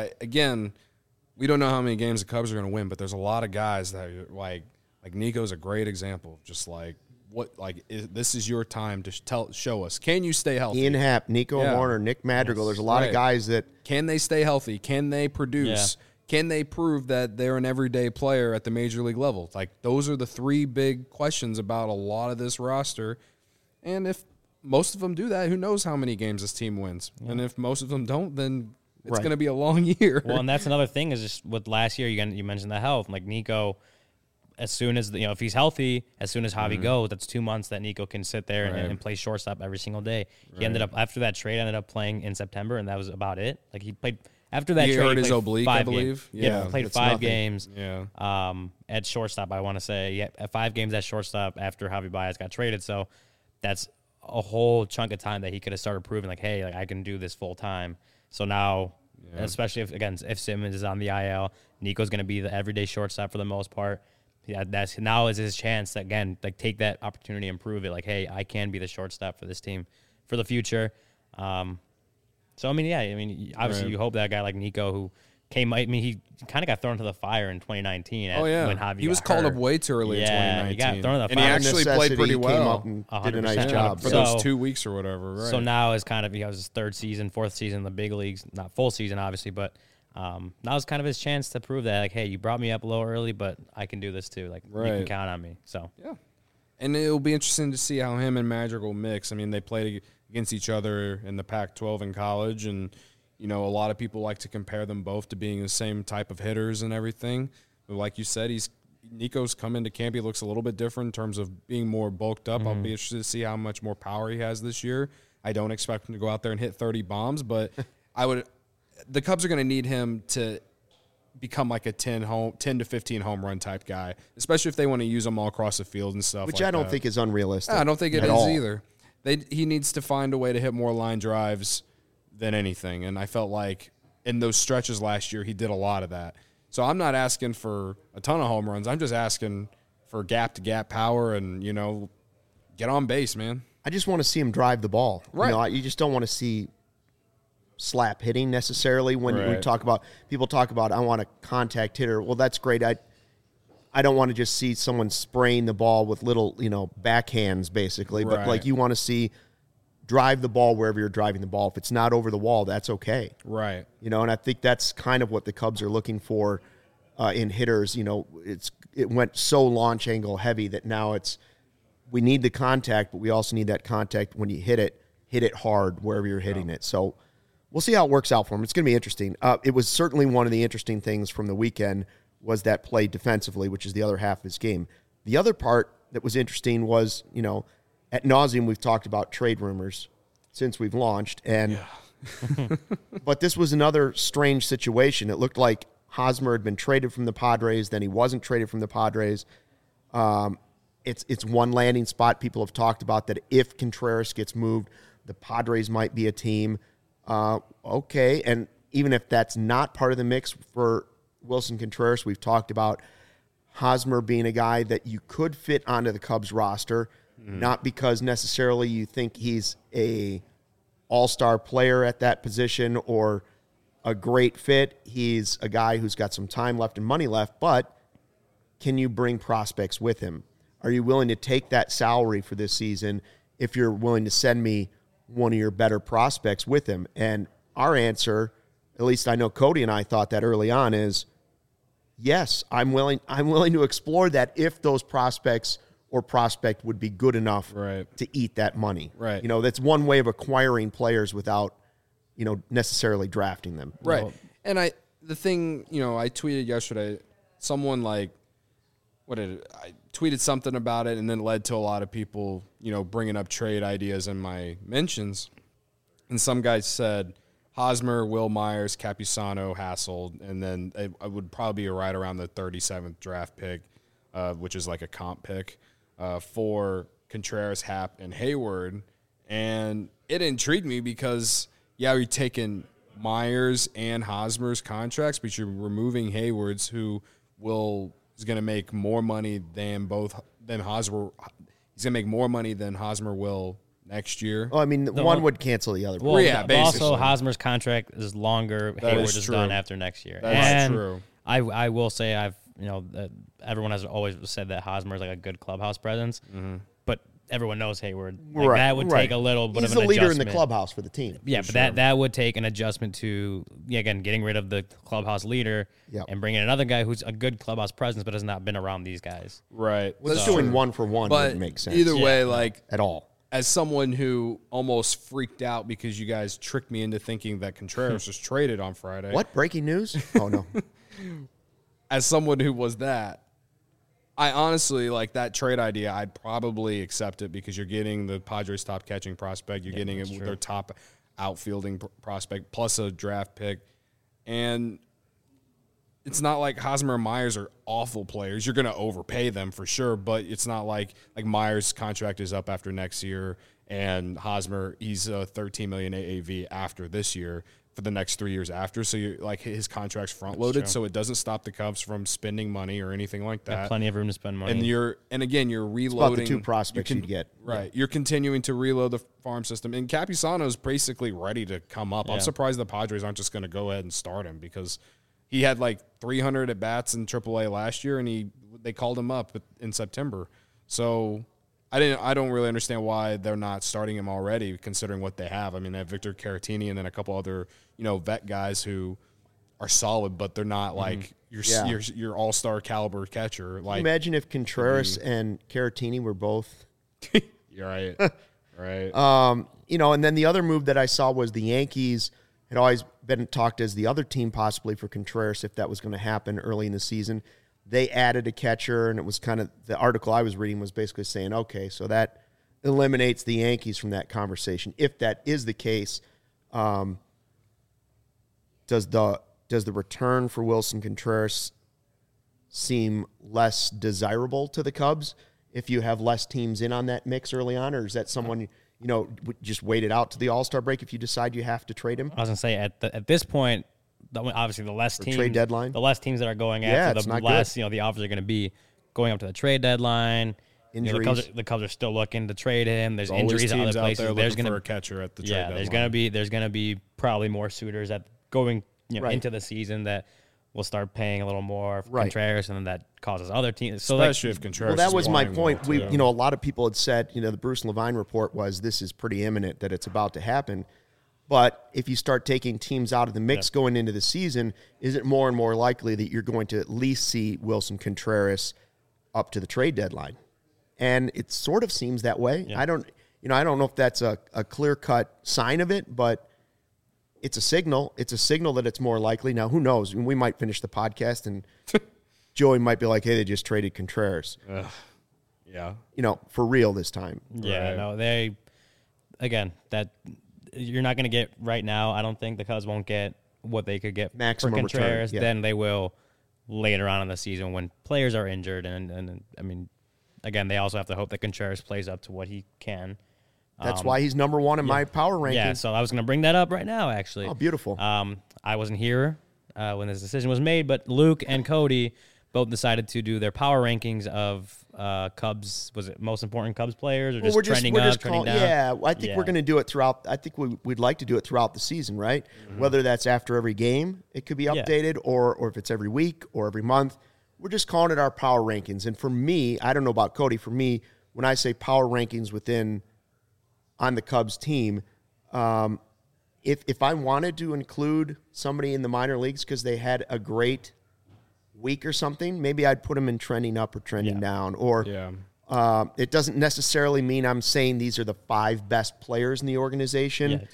[SPEAKER 2] We don't know how many games the Cubs are going to win, but there's a lot of guys that are like Nico's a great example. Just like. This is your time to show us. Can you stay healthy?
[SPEAKER 1] Ian Happ, Nico Warner, Nick Madrigal. There's a lot of guys that
[SPEAKER 2] can they stay healthy? Can they produce?
[SPEAKER 3] Yeah.
[SPEAKER 2] Can they prove that they're an everyday player at the major league level? Like, those are the three big questions about a lot of this roster. And if most of them do that, who knows how many games this team wins? Yeah. And if most of them don't, then it's going to be a long year.
[SPEAKER 3] Well, and that's another thing is just with last year, you mentioned the health. Like Nico, as soon as if he's healthy, as soon as Javi goes, that's 2 months that Nico can sit there and play shortstop every single day. He ended up after that trade, ended up playing in September, and that was about it. Like he played after that
[SPEAKER 2] he
[SPEAKER 3] trade.
[SPEAKER 2] Hurt his oblique, I believe.
[SPEAKER 3] Yeah, played 5 games.
[SPEAKER 2] Yeah.
[SPEAKER 3] At shortstop, I want to say, at 5 games at shortstop after Javi Baez got traded. So that's a whole chunk of time that he could have started proving, like, hey, like I can do this full time. So now, especially if Simmons is on the IL, Nico's going to be the everyday shortstop for the most part. Yeah, that's now is his chance to, again, like take that opportunity and prove it. Like, hey, I can be the shortstop for this team for the future. So I mean, obviously you hope that a guy like Nico, who he kind of got thrown to the fire in 2019. When Javi
[SPEAKER 2] he was called up way too early in 2019.
[SPEAKER 3] He got thrown to the fire.
[SPEAKER 2] And he actually played pretty well.
[SPEAKER 1] Came up and did a nice job
[SPEAKER 2] for those 2 weeks or whatever. Right.
[SPEAKER 3] So now is kind of his 3rd season, 4th season in the big leagues. Not full season, obviously, but. Now is kind of his chance to prove that, like, hey, you brought me up a little early, but I can do this too. Like, you can count on me. So
[SPEAKER 2] yeah, and it'll be interesting to see how him and Madrigal mix. I mean, they played against each other in the Pac-12 in college, and a lot of people like to compare them both to being the same type of hitters and everything. But like you said, Nico's come into camp. He looks a little bit different in terms of being more bulked up. I'll be interested to see how much more power he has this year. I don't expect him to go out there and hit 30 bombs, but the Cubs are going to need him to become like a 10 to 15 home run type guy, especially if they want to use him all across the field and stuff.
[SPEAKER 1] Which
[SPEAKER 2] like
[SPEAKER 1] I don't
[SPEAKER 2] that.
[SPEAKER 1] think is unrealistic.
[SPEAKER 2] I don't think it is
[SPEAKER 1] all.
[SPEAKER 2] either. He needs to find a way to hit more line drives than anything, and I felt like in those stretches last year he did a lot of that. So I'm not asking for a ton of home runs. I'm just asking for gap-to-gap power and, get on base, man.
[SPEAKER 1] I just want to see him drive the ball.
[SPEAKER 2] Right.
[SPEAKER 1] You just don't want to see slap hitting necessarily when we people talk about I want a contact hitter. Well, that's great. I don't want to just see someone spraying the ball with little, backhands basically, but like you want to see drive the ball wherever you're driving the ball. If it's not over the wall, that's okay.
[SPEAKER 2] Right.
[SPEAKER 1] And I think that's kind of what the Cubs are looking for in hitters. It went so launch angle heavy that now we need the contact, but we also need that contact when you hit it hard wherever you're hitting it. So we'll see how it works out for him. It's going to be interesting. It was certainly one of the interesting things from the weekend was that play defensively, which is the other half of his game. The other part that was interesting was, at nauseum we've talked about trade rumors since we've launched, and but this was another strange situation. It looked like Hosmer had been traded from the Padres, then he wasn't traded from the Padres. It's one landing spot. People have talked about that if Contreras gets moved, the Padres might be a team. Okay, and even if that's not part of the mix for Wilson Contreras, we've talked about Hosmer being a guy that you could fit onto the Cubs roster. not because necessarily you think he's a all-star player at that position or a great fit. He's a guy who's got some time left and money left, but can you bring prospects with him? Are you willing to take that salary for this season if you're willing to send me one of your better prospects with him? And our answer, at least I know Cody and I thought that early on, is yes, I'm willing to explore that if those prospects or prospect would be good enough to eat that money.
[SPEAKER 2] Right.
[SPEAKER 1] That's one way of acquiring players without, necessarily drafting them.
[SPEAKER 2] Right. And I tweeted yesterday, someone I tweeted something about it, and then led to a lot of people, bringing up trade ideas in my mentions. And some guys said Hosmer, Will Myers, Capusano, Hassel, and then I would probably be right around the 37th draft pick, which is like a comp pick, for Contreras, Happ, and Hayward. And it intrigued me because, you're taking Myers and Hosmer's contracts, but you're removing Hayward's, who is going to make more money than Hosmer. He's going to make more money than Hosmer will next year.
[SPEAKER 1] Well, I mean, one would cancel the other.
[SPEAKER 3] Well,
[SPEAKER 2] yeah,
[SPEAKER 3] but also Hosmer's contract is longer. Hayward's is done after next year.
[SPEAKER 2] That's true.
[SPEAKER 3] I will say everyone has always said that Hosmer is like a good clubhouse presence, but everyone knows Hayward. That would take a little bit of an adjustment.
[SPEAKER 1] He's the leader in the clubhouse for the team.
[SPEAKER 3] Yeah, but that would take an adjustment to, again, getting rid of the clubhouse leader and bringing in another guy who's a good clubhouse presence but has not been around these guys.
[SPEAKER 2] Right.
[SPEAKER 1] Well, doing one for one wouldn't make sense.
[SPEAKER 2] Either way,
[SPEAKER 1] at all.
[SPEAKER 2] As someone who almost freaked out because you guys tricked me into thinking that Contreras was traded on Friday.
[SPEAKER 1] What? Breaking news? Oh, no.
[SPEAKER 2] As someone who was that, I honestly, that trade idea, I'd probably accept it because you're getting the Padres' top catching prospect. You're getting their top outfielding prospect plus a draft pick. And it's not like Hosmer and Myers are awful players. You're going to overpay them for sure, but it's not like Myers' contract is up after next year and Hosmer, he's a $13 million AAV after this year for the next 3 years after. So you're his contract's front loaded, so it doesn't stop the Cubs from spending money or anything like that.
[SPEAKER 3] Plenty of room to spend money.
[SPEAKER 2] And you're reloading.
[SPEAKER 1] It's about the two prospects you'd get.
[SPEAKER 2] Right. You're continuing to reload the farm system. And Capusano's basically ready to come up. I'm surprised the Padres aren't just going to go ahead and start him because he had 300 at bats in AAA last year, and they called him up in September. So I don't really understand why they're not starting him already, considering what they have. I mean, they have Victor Caratini and then a couple other vet guys who are solid, but they're not your all-star caliber catcher.
[SPEAKER 1] Imagine if Contreras and Caratini were both.
[SPEAKER 2] You're right. Right.
[SPEAKER 1] And then the other move that I saw was the Yankees had always been talked as the other team possibly for Contreras if that was going to happen early in the season. They added a catcher, and it was kind of the article I was reading was basically saying, okay, so that eliminates the Yankees from that conversation. If that is the case, does the return for Wilson Contreras seem less desirable to the Cubs if you have less teams in on that mix early on, or is that someone just wait it out to the All-Star break if you decide you have to trade him?
[SPEAKER 3] I was going to say, at this point, obviously the less teams,
[SPEAKER 1] trade deadline,
[SPEAKER 3] the less teams that are going after, the less the offers are going to be going up to the trade deadline.
[SPEAKER 1] Injuries.
[SPEAKER 3] The Cubs are still looking to trade him. There's
[SPEAKER 2] injuries
[SPEAKER 3] at other places.
[SPEAKER 2] There's going to be a catcher at the trade deadline.
[SPEAKER 3] There's going to be probably more suitors that going into the season that will start paying a little more for Contreras, and then that causes other teams. So
[SPEAKER 2] especially if Contreras.
[SPEAKER 1] Well, that was my point. A lot of people had said, the Bruce Levine report was this is pretty imminent that it's about to happen. But if you start taking teams out of the mix going into the season, is it more and more likely that you're going to at least see Wilson Contreras up to the trade deadline? And it sort of seems that way. Yeah. I don't know if that's a clear-cut sign of it, but it's a signal. It's a signal that it's more likely. Now, who knows? We might finish the podcast and Joey might be like, hey, they just traded Contreras.
[SPEAKER 2] Yeah.
[SPEAKER 1] For real this time.
[SPEAKER 3] Yeah, no, you're not going to get right now. I don't think the Cubs won't get what they could get
[SPEAKER 1] maximum
[SPEAKER 3] for Contreras.
[SPEAKER 1] Return,
[SPEAKER 3] Then they will later on in the season when players are injured. And I mean, again, they also have to hope that Contreras plays up to what he can.
[SPEAKER 1] That's why he's number one in my power ranking.
[SPEAKER 3] Yeah, so I was going to bring that up right now, actually.
[SPEAKER 1] Oh, beautiful.
[SPEAKER 3] I wasn't here when this decision was made, but Luke and Cody both decided to do their power rankings of Cubs. Was it most important Cubs players, or just trending up, trending down?
[SPEAKER 1] Yeah, I think we're going to do it throughout. I think we'd like to do it throughout the season, right? Whether that's after every game, it could be updated, or if it's every week or every month. We're just calling it our power rankings. And for me, I don't know about Cody. For me, when I say power rankings on the Cubs team, if I wanted to include somebody in the minor leagues because they had a great week or something, maybe I'd put them in trending up or trending down. Or it doesn't necessarily mean I'm saying these are the 5 best players in the organization.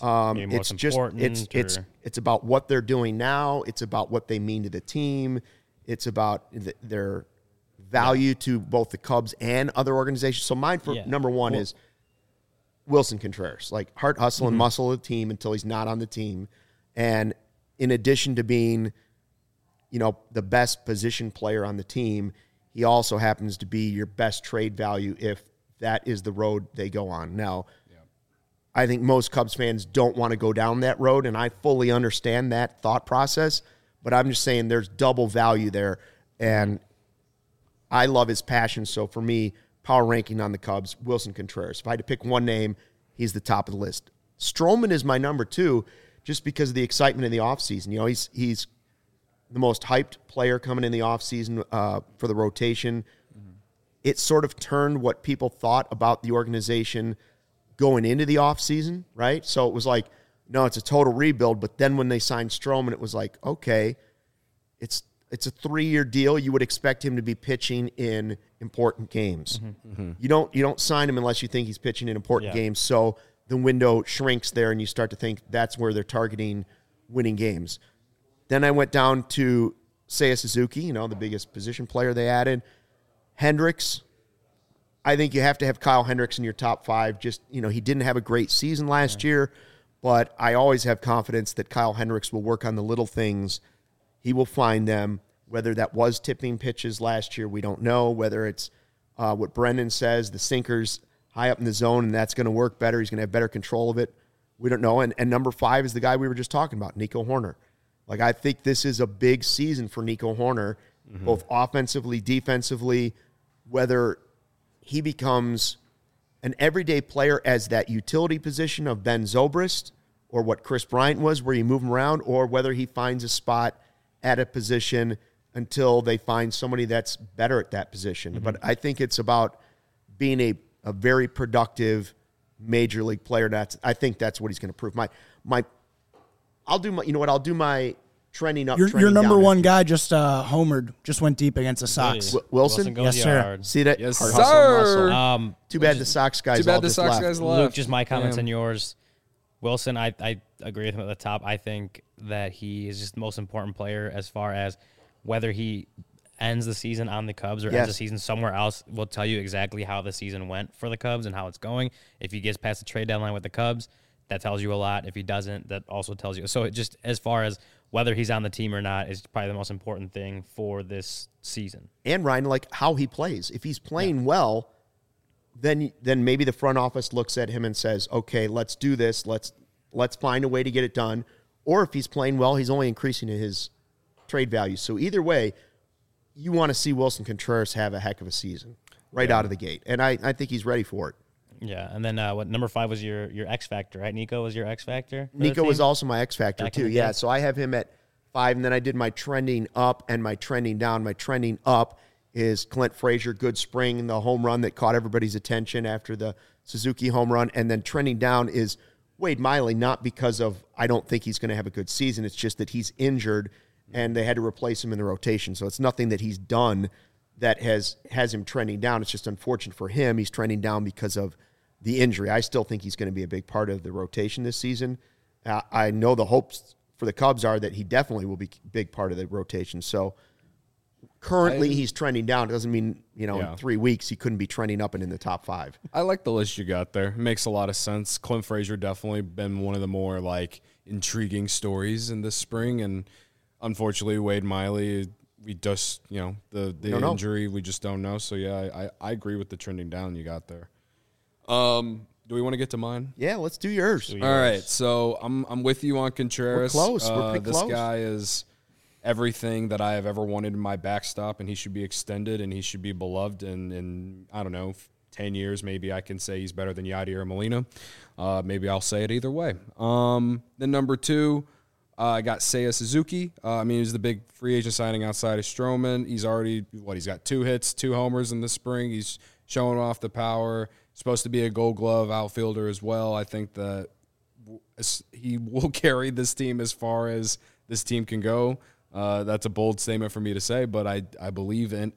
[SPEAKER 1] It's about what they're doing now. It's about what they mean to the team. It's about their value to both the Cubs and other organizations. So mine for number one is Wilson Contreras, like heart, hustle, and muscle of the team until he's not on the team. And in addition to being, the best position player on the team, he also happens to be your best trade value if that is the road they go on. Now, I think most Cubs fans don't want to go down that road, and I fully understand that thought process, but I'm just saying there's double value there, and I love his passion. So for me, power ranking on the Cubs, Wilson Contreras. If I had to pick one name, he's the top of the list. Stroman is my number 2 just because of the excitement in the offseason. He's the most hyped player coming in the offseason for the rotation. It sort of turned what people thought about the organization going into the offseason, right? So it was like, no, it's a total rebuild. But then when they signed Stroman, it was like, okay, it's a 3-year deal. You would expect him to be pitching in important games. You don't sign him unless you think he's pitching in important games. So the window shrinks there, and you start to think that's where they're targeting winning games. Then I went down to Seiya Suzuki, the biggest position player they added. Hendricks. I think you have to have Kyle Hendricks in your top 5. Just, he didn't have a great season last year, but I always have confidence that Kyle Hendricks will work on the little things. He will find them. Whether that was tipping pitches last year, we don't know. Whether it's what Brendan says, the sinkers high up in the zone, and that's going to work better. He's going to have better control of it. We don't know. And number 5 is the guy we were just talking about, Nico Hoerner. Like, I think this is a big season for Nico Hoerner, both offensively, defensively, whether he becomes an everyday player as that utility position of Ben Zobrist or what Chris Bryant was, where you move him around, or whether he finds a spot at a position until they find somebody that's better at that position. But I think it's about being a very productive major league player. I think that's what he's going to prove. I'll do my trending up.
[SPEAKER 4] Your number one guy just homered, just went deep against the Sox.
[SPEAKER 1] Wilson?
[SPEAKER 3] Goes
[SPEAKER 4] Yes, sir.
[SPEAKER 3] yard.
[SPEAKER 1] See that?
[SPEAKER 2] Yes,
[SPEAKER 1] Hard
[SPEAKER 2] sir.
[SPEAKER 1] hustle and muscle. Too bad the Sox guys left.
[SPEAKER 3] Luke, just my comments and yours. Wilson, I agree with him at the top. I think that he is just the most important player as far as whether he ends the season on the Cubs or ends the season somewhere else will tell you exactly how the season went for the Cubs and how it's going. If he gets past the trade deadline with the Cubs, that tells you a lot. If he doesn't, that also tells you. So it just as far as whether he's on the team or not is probably the most important thing for this season.
[SPEAKER 1] And Ryan, like how he plays. If he's playing well, then maybe the front office looks at him and says, okay, let's do this. Let's find a way to get it done. Or if he's playing well, he's only increasing his trade value. So either way, you want to see Wilson Contreras have a heck of a season out of the gate. And I think he's ready for it.
[SPEAKER 3] Yeah, and then what number 5 was your X Factor, right? Nico was your X Factor?
[SPEAKER 1] Nico was also my X Factor,
[SPEAKER 3] Back
[SPEAKER 1] too.
[SPEAKER 3] in the
[SPEAKER 1] Yeah,
[SPEAKER 3] day?
[SPEAKER 1] so I have him at 5, and then I did my trending up and my trending down. My trending up is Clint Frazier, good spring, the home run that caught everybody's attention after the Suzuki home run. And then trending down is Wade Miley, not because of I don't think he's going to have a good season. It's just that he's injured, and they had to replace him in the rotation. So it's nothing that he's done that has him trending down. It's just unfortunate for him. He's trending down because of the injury. I still think he's going to be a big part of the rotation this season. I know the hopes for the Cubs are that he definitely will be a big part of the rotation. So currently he's trending down. It doesn't mean, in 3 weeks he couldn't be trending up and in the top 5.
[SPEAKER 2] I like the list you got there. It makes a lot of sense. Clint Frazier definitely been one of the more intriguing stories in this spring. And unfortunately, Wade Miley, we just, the injury, we just don't know. So yeah, I agree with the trending down you got there. Do we want to get to mine?
[SPEAKER 1] Yeah, let's do yours.
[SPEAKER 2] All right, so I'm with you on Contreras.
[SPEAKER 1] We're close. We're pretty
[SPEAKER 2] this
[SPEAKER 1] close.
[SPEAKER 2] guy is everything that I have ever wanted in my backstop, and he should be extended, and he should be beloved. And in, I don't know, 10 years, maybe I can say he's better than Yadier Molina. Maybe I'll say it either way. Then number 2, I got Seiya Suzuki. He's the big free agent signing outside of Stroman. He's already, he's got 2 hits, 2 homers in the spring. He's showing off the power. Supposed to be a Gold Glove outfielder as well. I think that he will carry this team as far as this team can go. That's a bold statement for me to say, but I believe it.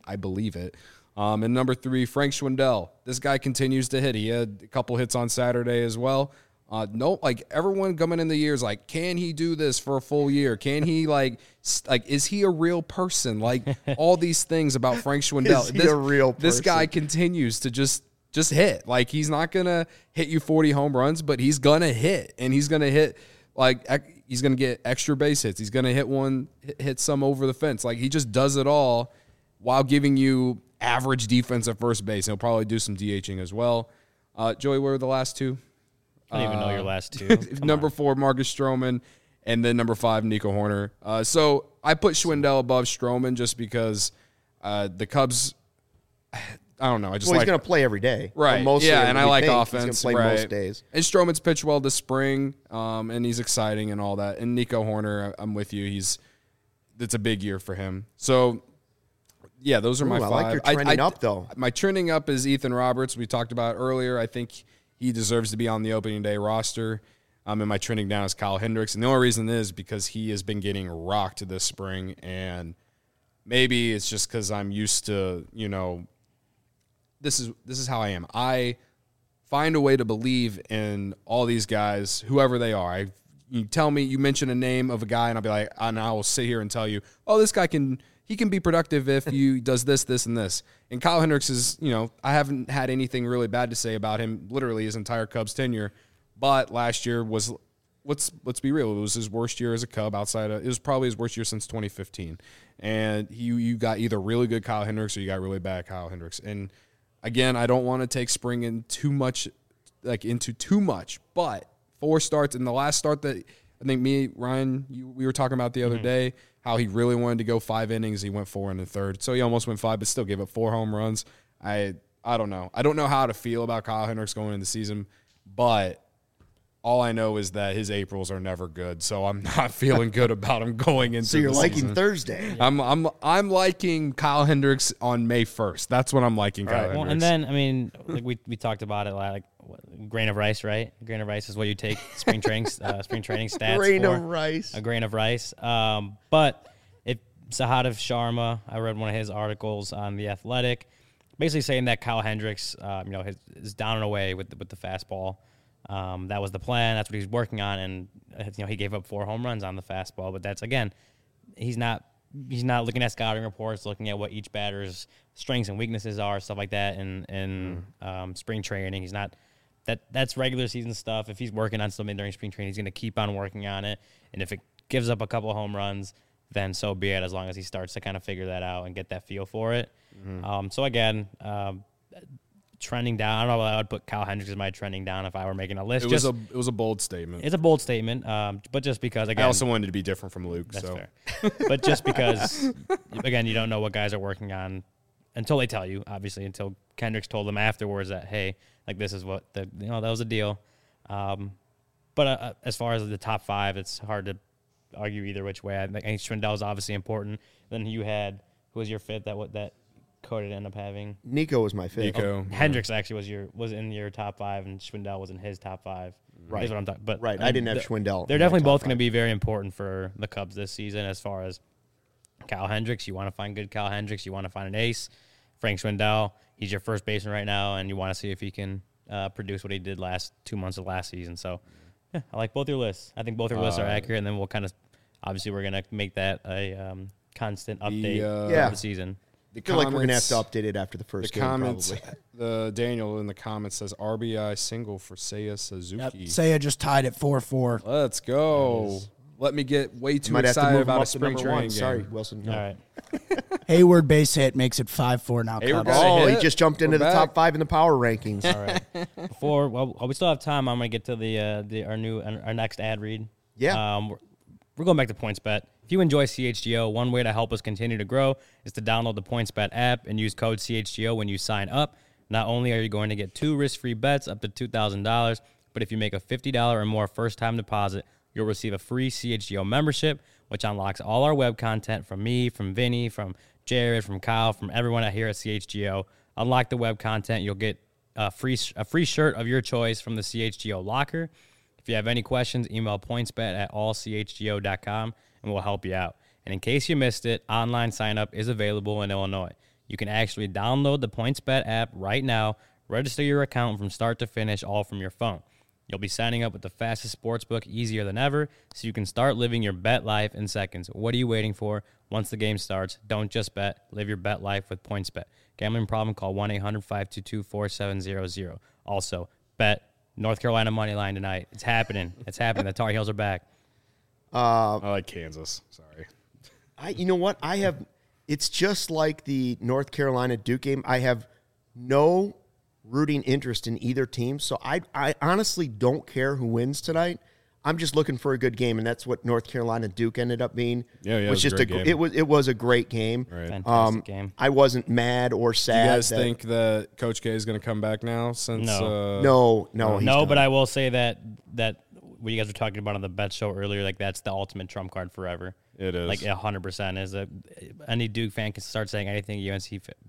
[SPEAKER 2] And number 3, Frank Schwindel. This guy continues to hit. He had a couple hits on Saturday as well. Everyone coming in the year is like, can he do this for a full year? Can he is he a real person? Like all these things about Frank Schwindel.
[SPEAKER 1] Is he a real person?
[SPEAKER 2] This guy continues to just hit. Like he's not gonna hit you 40 home runs, but he's gonna hit, and he's gonna hit he's gonna get extra base hits. He's gonna hit some over the fence. Like he just does it all while giving you average defense at first base. He'll probably do some DHing as well. Joey, what were the last 2?
[SPEAKER 3] I don't even know your last 2.
[SPEAKER 2] Number 4, Marcus Stroman, and then number 5, Nico Horner. So I put Schwindel above Stroman just because the Cubs, I don't know.
[SPEAKER 1] He's going to play every day.
[SPEAKER 2] Right.
[SPEAKER 1] Well,
[SPEAKER 2] and I like offense.
[SPEAKER 1] He's going to play most days.
[SPEAKER 2] And Stroman's pitched well this spring, and he's exciting and all that. And Nico Horner, I'm with you. It's a big year for him. So, yeah, those are my 5.
[SPEAKER 1] I like your trending up, though.
[SPEAKER 2] My trending up is Ethan Roberts. We talked about earlier. I think he deserves to be on the opening day roster. And my trending down is Kyle Hendricks. And the only reason is because he has been getting rocked this spring. And maybe it's just because I'm used to, this is how I am. I find a way to believe in all these guys, whoever they are. You tell me, you mention a name of a guy, and I'll be like, and I will sit here and tell you, oh, this guy can be productive if he does this, this, and this. And Kyle Hendricks is, I haven't had anything really bad to say about him, literally his entire Cubs tenure. But last year was, let's be real, it was his worst year as a Cub it was probably his worst year since 2015. And you got either really good Kyle Hendricks or you got really bad Kyle Hendricks. And again, I don't want to take spring into too much, but 4 starts, and the last start that I think Ryan, we were talking about the other day, how he really wanted to go 5 innings. He went 4 1/3. So he almost went 5, but still gave up 4 home runs. I don't know. I don't know how to feel about Kyle Hendricks going into the season, but all I know is that his Aprils are never good. So I'm not feeling good about him going into the season.
[SPEAKER 1] So you're liking Thursday.
[SPEAKER 2] I'm liking Kyle Hendricks on May 1st. That's when I'm liking Kyle Hendricks.
[SPEAKER 3] Well, and then, we talked about it grain of rice, right? A grain of rice is what you take spring training stats
[SPEAKER 1] Grain
[SPEAKER 3] for.
[SPEAKER 1] of rice.
[SPEAKER 3] A grain of rice. But Sahadev Sharma, I read one of his articles on The Athletic, basically saying that Kyle Hendricks, is down and away with the fastball. That was the plan. That's what he's working on, and he gave up 4 home runs on the fastball. But that's, again, he's not looking at scouting reports, looking at what each batter's strengths and weaknesses are, stuff like that. In spring training, he's not. That's regular season stuff. If he's working on something during spring training, he's going to keep on working on it. And if it gives up a couple of home runs, then so be it, as long as he starts to kind of figure that out and get that feel for it. So again, trending down. I don't know if I would put Kyle Hendricks as my trending down if I were making a list.
[SPEAKER 2] It was a bold statement.
[SPEAKER 3] It's a bold statement, but just because, again,
[SPEAKER 2] I also wanted to be different from Luke.
[SPEAKER 3] That's
[SPEAKER 2] so
[SPEAKER 3] fair. But just because, again, you don't know what guys are working on until they tell you. Obviously, until Hendricks told them afterwards that, hey, this is what that was a deal. But as far as the top 5, it's hard to argue either which way. I think Schwindel is obviously important. Then you had, who was your 5th that Cody did end up having?
[SPEAKER 1] Nico was my 5th.
[SPEAKER 2] Nico.
[SPEAKER 3] Hendricks actually was in your top 5, and Schwindel was in his top 5.
[SPEAKER 1] Right.
[SPEAKER 3] Is what I'm talking. But
[SPEAKER 1] right, I didn't have Schwindel.
[SPEAKER 3] They're definitely both going to be very important for the Cubs this season. As far as Kyle Hendricks, you want to find good Kyle Hendricks. You want to find an ace. Frank Schwindel, he's your first baseman right now, and you want to see if he can produce what he did last 2 months of last season. So, yeah, I like both your lists. I think both your lists are accurate, and then we'll kind of, obviously, we're going to make that a constant update for the season.
[SPEAKER 1] I feel like we're going to have to update it after the first game,
[SPEAKER 2] comments,
[SPEAKER 1] probably.
[SPEAKER 2] Daniel in the comments says RBI single for Seiya Suzuki.
[SPEAKER 4] Yep. Seiya just tied at 4-4.
[SPEAKER 2] Let's go. Let me get way too
[SPEAKER 1] Might
[SPEAKER 2] excited
[SPEAKER 1] have to move
[SPEAKER 2] about a
[SPEAKER 1] up to
[SPEAKER 2] spring
[SPEAKER 1] number
[SPEAKER 2] training
[SPEAKER 1] 1.
[SPEAKER 2] game.
[SPEAKER 1] Sorry, Wilson. No.
[SPEAKER 3] All right.
[SPEAKER 4] Hayward base hit makes it 5-4 now.
[SPEAKER 2] Hayward
[SPEAKER 4] Cubs.
[SPEAKER 2] got a hit.
[SPEAKER 1] He just jumped into
[SPEAKER 2] We're
[SPEAKER 1] the
[SPEAKER 2] back.
[SPEAKER 1] top 5 in the power rankings.
[SPEAKER 3] All right. While we still have time, I'm going to get to our next ad read.
[SPEAKER 1] Yeah.
[SPEAKER 3] we're going back to PointsBet. If you enjoy CHGO, one way to help us continue to grow is to download the PointsBet app and use code CHGO when you sign up. Not only are you going to get 2 risk-free bets up to $2,000, but if you make a $50 or more first-time deposit, you'll receive a free CHGO membership, which unlocks all our web content from me, from Vinny, from Jared, from Kyle, from everyone here at CHGO. Unlock the web content. You'll get a free shirt of your choice from the CHGO locker. If you have any questions, email pointsbet@allchgo.com and we'll help you out. And in case you missed it, online sign-up is available in Illinois. You can actually download the PointsBet app right now, register your account from start to finish, all from your phone. You'll be signing up with the fastest sportsbook easier than ever, so you can start living your bet life in seconds. What are you waiting for? Once the game starts, don't just bet. Live your bet life with PointsBet. Gambling problem? Call 1-800-522-4700. Also, bet North Carolina money line tonight. It's happening. It's happening. The Tar Heels are back.
[SPEAKER 2] I like Kansas. Sorry.
[SPEAKER 1] You know what? It's just like the North Carolina Duke game. I have no rooting interest in either team, so I honestly don't care who wins tonight. I'm just looking for a good game, and that's what North Carolina Duke ended up being.
[SPEAKER 2] Yeah,
[SPEAKER 1] it was just
[SPEAKER 2] a great game.
[SPEAKER 1] It was a great game.
[SPEAKER 2] Right.
[SPEAKER 3] Fantastic game.
[SPEAKER 1] I wasn't mad or sad.
[SPEAKER 2] Do you guys think that Coach K is going to come back now? Since
[SPEAKER 1] No, he's
[SPEAKER 3] No,
[SPEAKER 1] done.
[SPEAKER 3] but I will say that what you guys were talking about on the bet show earlier, like that's the ultimate trump card forever.
[SPEAKER 2] It is.
[SPEAKER 3] Like 100% is any Duke fan can start saying anything UNC.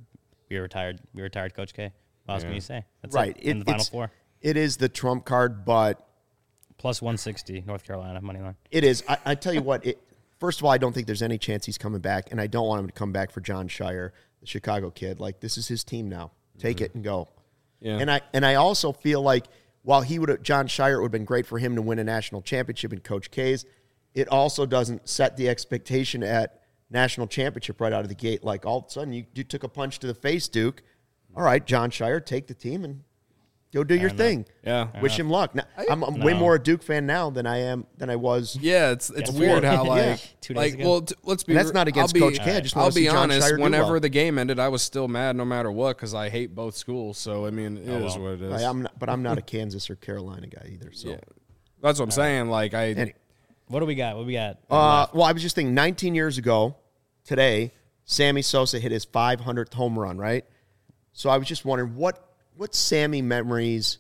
[SPEAKER 3] We retired Coach K. What else can you say? That's
[SPEAKER 1] right.
[SPEAKER 3] it, in the Final Four.
[SPEAKER 1] It is the trump card, but
[SPEAKER 3] Plus 160 North Carolina money line.
[SPEAKER 1] it is. I tell you what. First of all, I don't think there's any chance he's coming back, and I don't want him to come back for John Shire, the Chicago kid. Like, this is his team now. Take it and go.
[SPEAKER 2] Yeah.
[SPEAKER 1] And I also feel like while John Shire, it would have been great for him to win a national championship in Coach K's, it also doesn't set the expectation at national championship right out of the gate. Like, all of a sudden, you took a punch to the face, Duke. All right, John Shire, take the team and go do your thing.
[SPEAKER 2] Yeah.
[SPEAKER 1] Wish him luck. Now, I'm way more a I Fan now than I was.
[SPEAKER 2] Yeah, it's weird how
[SPEAKER 1] Yeah.
[SPEAKER 3] 2 days ago.
[SPEAKER 2] well, let's be.
[SPEAKER 1] And that's not against Coach K. I just want
[SPEAKER 2] I'll
[SPEAKER 1] to see
[SPEAKER 2] be
[SPEAKER 1] John
[SPEAKER 2] honest.
[SPEAKER 1] Shire do
[SPEAKER 2] Whenever
[SPEAKER 1] well.
[SPEAKER 2] the game ended, I was still mad no matter what because I hate both schools. So I mean, it is what it is.
[SPEAKER 1] I'm not a Kansas or Carolina guy either. So
[SPEAKER 2] Yeah. That's what I'm saying. Like
[SPEAKER 3] What do we got? What we got?
[SPEAKER 1] well, I was just thinking 19 years ago today, Sammy Sosa hit his 500th home run, right? So I was just wondering what Sammy memories,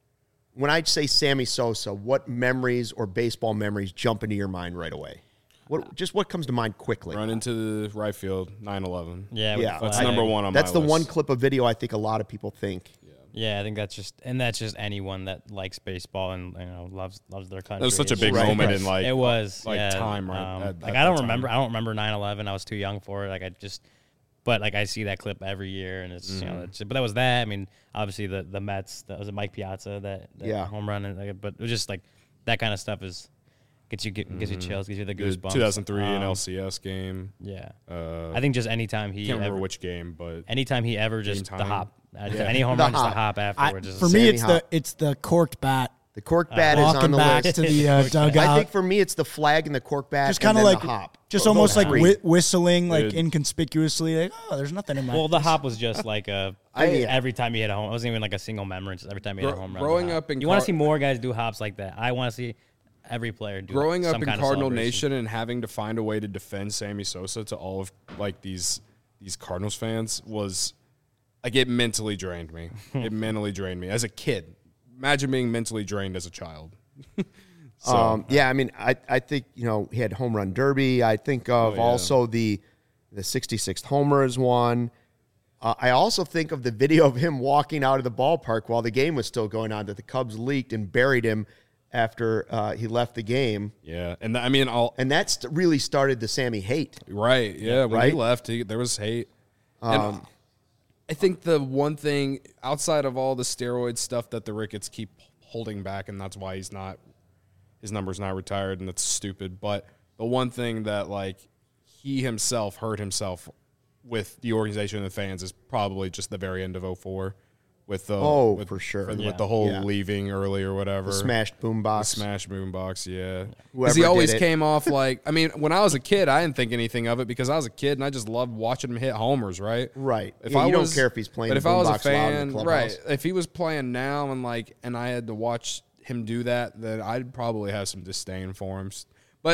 [SPEAKER 1] when I say Sammy Sosa, what memories or baseball memories jump into your mind right away? What comes to mind quickly?
[SPEAKER 2] run into the right field, 9/11.
[SPEAKER 3] Yeah,
[SPEAKER 1] Yeah,
[SPEAKER 2] That's
[SPEAKER 3] flag.
[SPEAKER 2] number one on
[SPEAKER 1] That's
[SPEAKER 2] my
[SPEAKER 1] the one
[SPEAKER 2] list.
[SPEAKER 1] clip of video I think a lot of people think.
[SPEAKER 3] Yeah, I think that's just anyone that likes baseball and loves their country.
[SPEAKER 2] That was such a
[SPEAKER 3] It's
[SPEAKER 2] big
[SPEAKER 3] just-
[SPEAKER 2] moment in like
[SPEAKER 3] it was
[SPEAKER 2] like
[SPEAKER 3] yeah,
[SPEAKER 2] time right.
[SPEAKER 3] Like I don't remember 9/11. I was too young for it. But like I see that clip every year, and it's but that was that. I mean, obviously the Mets. That was Mike Piazza that home run, and but it was just like that kind of stuff gets you chills, gives you the goosebumps.
[SPEAKER 2] 2003 an LCS game.
[SPEAKER 3] Yeah,
[SPEAKER 2] I
[SPEAKER 3] I think just anytime he
[SPEAKER 2] can't remember which game, but
[SPEAKER 3] anytime he ever just
[SPEAKER 2] Game
[SPEAKER 3] the
[SPEAKER 2] time.
[SPEAKER 3] hop, any home run, just the hop afterwards.
[SPEAKER 4] For
[SPEAKER 3] Just-
[SPEAKER 4] me,
[SPEAKER 1] Sammy
[SPEAKER 4] it's the corked bat.
[SPEAKER 1] The cork bat is on
[SPEAKER 4] Walking
[SPEAKER 1] the
[SPEAKER 4] back
[SPEAKER 1] list.
[SPEAKER 4] to the dugout.
[SPEAKER 1] I think for me, it's the flag and the cork bat,
[SPEAKER 4] just
[SPEAKER 1] and
[SPEAKER 4] kind of
[SPEAKER 1] then
[SPEAKER 4] like
[SPEAKER 1] the hop.
[SPEAKER 4] just
[SPEAKER 1] Those
[SPEAKER 4] almost like
[SPEAKER 1] three.
[SPEAKER 4] whistling like
[SPEAKER 2] Dude.
[SPEAKER 4] inconspicuously. Like, oh, there's nothing in my.
[SPEAKER 3] well, the hop was just like
[SPEAKER 1] mean,
[SPEAKER 3] every time he hit a home. It wasn't even like a single memory. Just every time he hit a home run.
[SPEAKER 2] growing
[SPEAKER 3] the hop.
[SPEAKER 2] up in
[SPEAKER 3] you want
[SPEAKER 2] Car-
[SPEAKER 3] to see more guys do hops like that. I want to see every player do.
[SPEAKER 2] growing
[SPEAKER 3] some
[SPEAKER 2] up in
[SPEAKER 3] kind of
[SPEAKER 2] Cardinal
[SPEAKER 3] celebration.
[SPEAKER 2] Nation and having to find a way to defend Sammy Sosa to all of like these Cardinals fans was like it mentally drained me. It mentally drained me as a kid. Imagine being mentally drained as a child.
[SPEAKER 1] Yeah, I mean, I think, he had home run derby. I think of also the 66th homer is one. I also think of the video of him walking out of the ballpark while the game was still going on, that the Cubs leaked and buried him after he left the game.
[SPEAKER 2] Yeah, and I mean,
[SPEAKER 1] And that's really started the Sammy hate.
[SPEAKER 2] right, yeah, when
[SPEAKER 1] Right?
[SPEAKER 2] he left, there was hate. And I think the one thing outside of all the steroid stuff that the Ricketts keep holding back, and that's why his number's not retired, and that's stupid. But the one thing that like he himself hurt himself with the organization and the fans is probably just the very end of 2004 with the
[SPEAKER 1] for sure.
[SPEAKER 2] with the whole
[SPEAKER 1] Yeah.
[SPEAKER 2] leaving early or whatever.
[SPEAKER 1] The smashed boombox.
[SPEAKER 2] Smash boombox, yeah.
[SPEAKER 1] Whoever
[SPEAKER 2] Because he always
[SPEAKER 1] did it.
[SPEAKER 2] came off like, I mean, when I was a kid, I didn't think anything of it because I was a kid and I just loved watching him hit homers, right?
[SPEAKER 1] Right.
[SPEAKER 2] If
[SPEAKER 1] Yeah,
[SPEAKER 2] I
[SPEAKER 1] you don't
[SPEAKER 2] was-
[SPEAKER 1] care if he's playing
[SPEAKER 2] But if
[SPEAKER 1] the
[SPEAKER 2] I was a
[SPEAKER 1] boombox loud in
[SPEAKER 2] fan,
[SPEAKER 1] the clubhouse.
[SPEAKER 2] right? If he was playing now and I had to watch him do that, then I'd probably have some disdain for him. But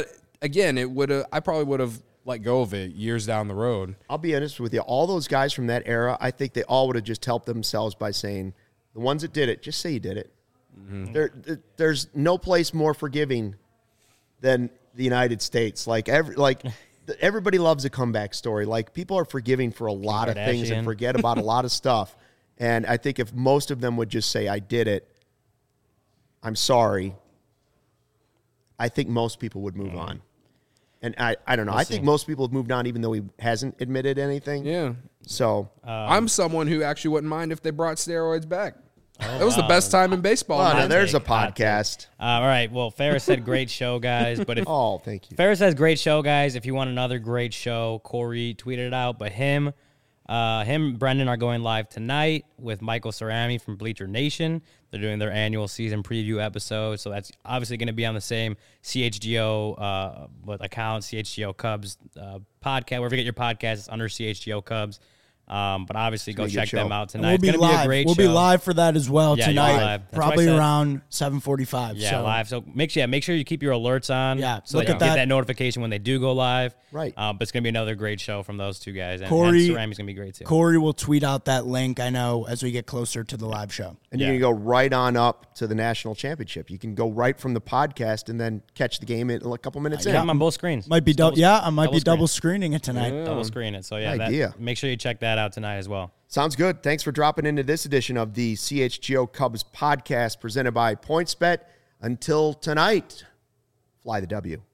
[SPEAKER 2] again, I probably would have let go of it years down the road.
[SPEAKER 1] I'll be honest with you. All those guys from that era, I think they all would have just helped themselves by saying, the ones that did it, just say you did it. Mm-hmm. There's no place more forgiving than the United States. Everybody loves a comeback story. Like, people are forgiving for a lot of things and forget about a lot of stuff. And I think if most of them would just say, I did it, I'm sorry, I think most people would move on. And I don't know. I think most people have moved on even though he hasn't admitted anything.
[SPEAKER 2] Yeah.
[SPEAKER 1] So
[SPEAKER 2] I'm someone who actually wouldn't mind if they brought steroids back. That was the best time in baseball.
[SPEAKER 1] Now there's a podcast.
[SPEAKER 3] All right. Well, Ferris said great show, guys. But if
[SPEAKER 1] thank you.
[SPEAKER 3] Ferris says great show, guys. If you want another great show, Corey tweeted it out. But him and Brendan are going live tonight with Michael Cerami from Bleacher Nation. They're doing their annual season preview episode. So that's obviously going to be on the same CHGO account, CHGO Cubs podcast. Wherever you get your podcasts, it's under CHGO Cubs. But obviously, go check them out tonight.
[SPEAKER 4] We'll be
[SPEAKER 3] it's
[SPEAKER 4] live.
[SPEAKER 3] Be a great
[SPEAKER 4] we'll
[SPEAKER 3] show.
[SPEAKER 4] be live for that as well tonight.
[SPEAKER 3] Probably
[SPEAKER 4] around 7:45.
[SPEAKER 3] Yeah, live. So make sure you keep your alerts on.
[SPEAKER 4] Yeah,
[SPEAKER 3] so
[SPEAKER 4] look
[SPEAKER 3] that
[SPEAKER 4] at
[SPEAKER 3] you
[SPEAKER 4] that.
[SPEAKER 3] get that notification when they do go live.
[SPEAKER 1] Right.
[SPEAKER 3] But it's gonna be another great show from those two guys. And
[SPEAKER 4] Corey-
[SPEAKER 3] Cerami's gonna be great too.
[SPEAKER 4] Corey will tweet out that link, I know, as we get closer to the live show.
[SPEAKER 1] And you can go right on up to the national championship. You can go right from the podcast and then catch the game in a couple minutes
[SPEAKER 3] Yeah, I'm
[SPEAKER 1] in.
[SPEAKER 3] on both screens.
[SPEAKER 4] Might be I might be
[SPEAKER 3] screen.
[SPEAKER 4] double screening it tonight.
[SPEAKER 3] Double screen it. So yeah,
[SPEAKER 1] Idea.
[SPEAKER 3] make sure you check that out tonight as well.
[SPEAKER 1] Sounds good. Thanks for dropping into this edition of the CHGO Cubs podcast presented by PointsBet. Until tonight, fly the W.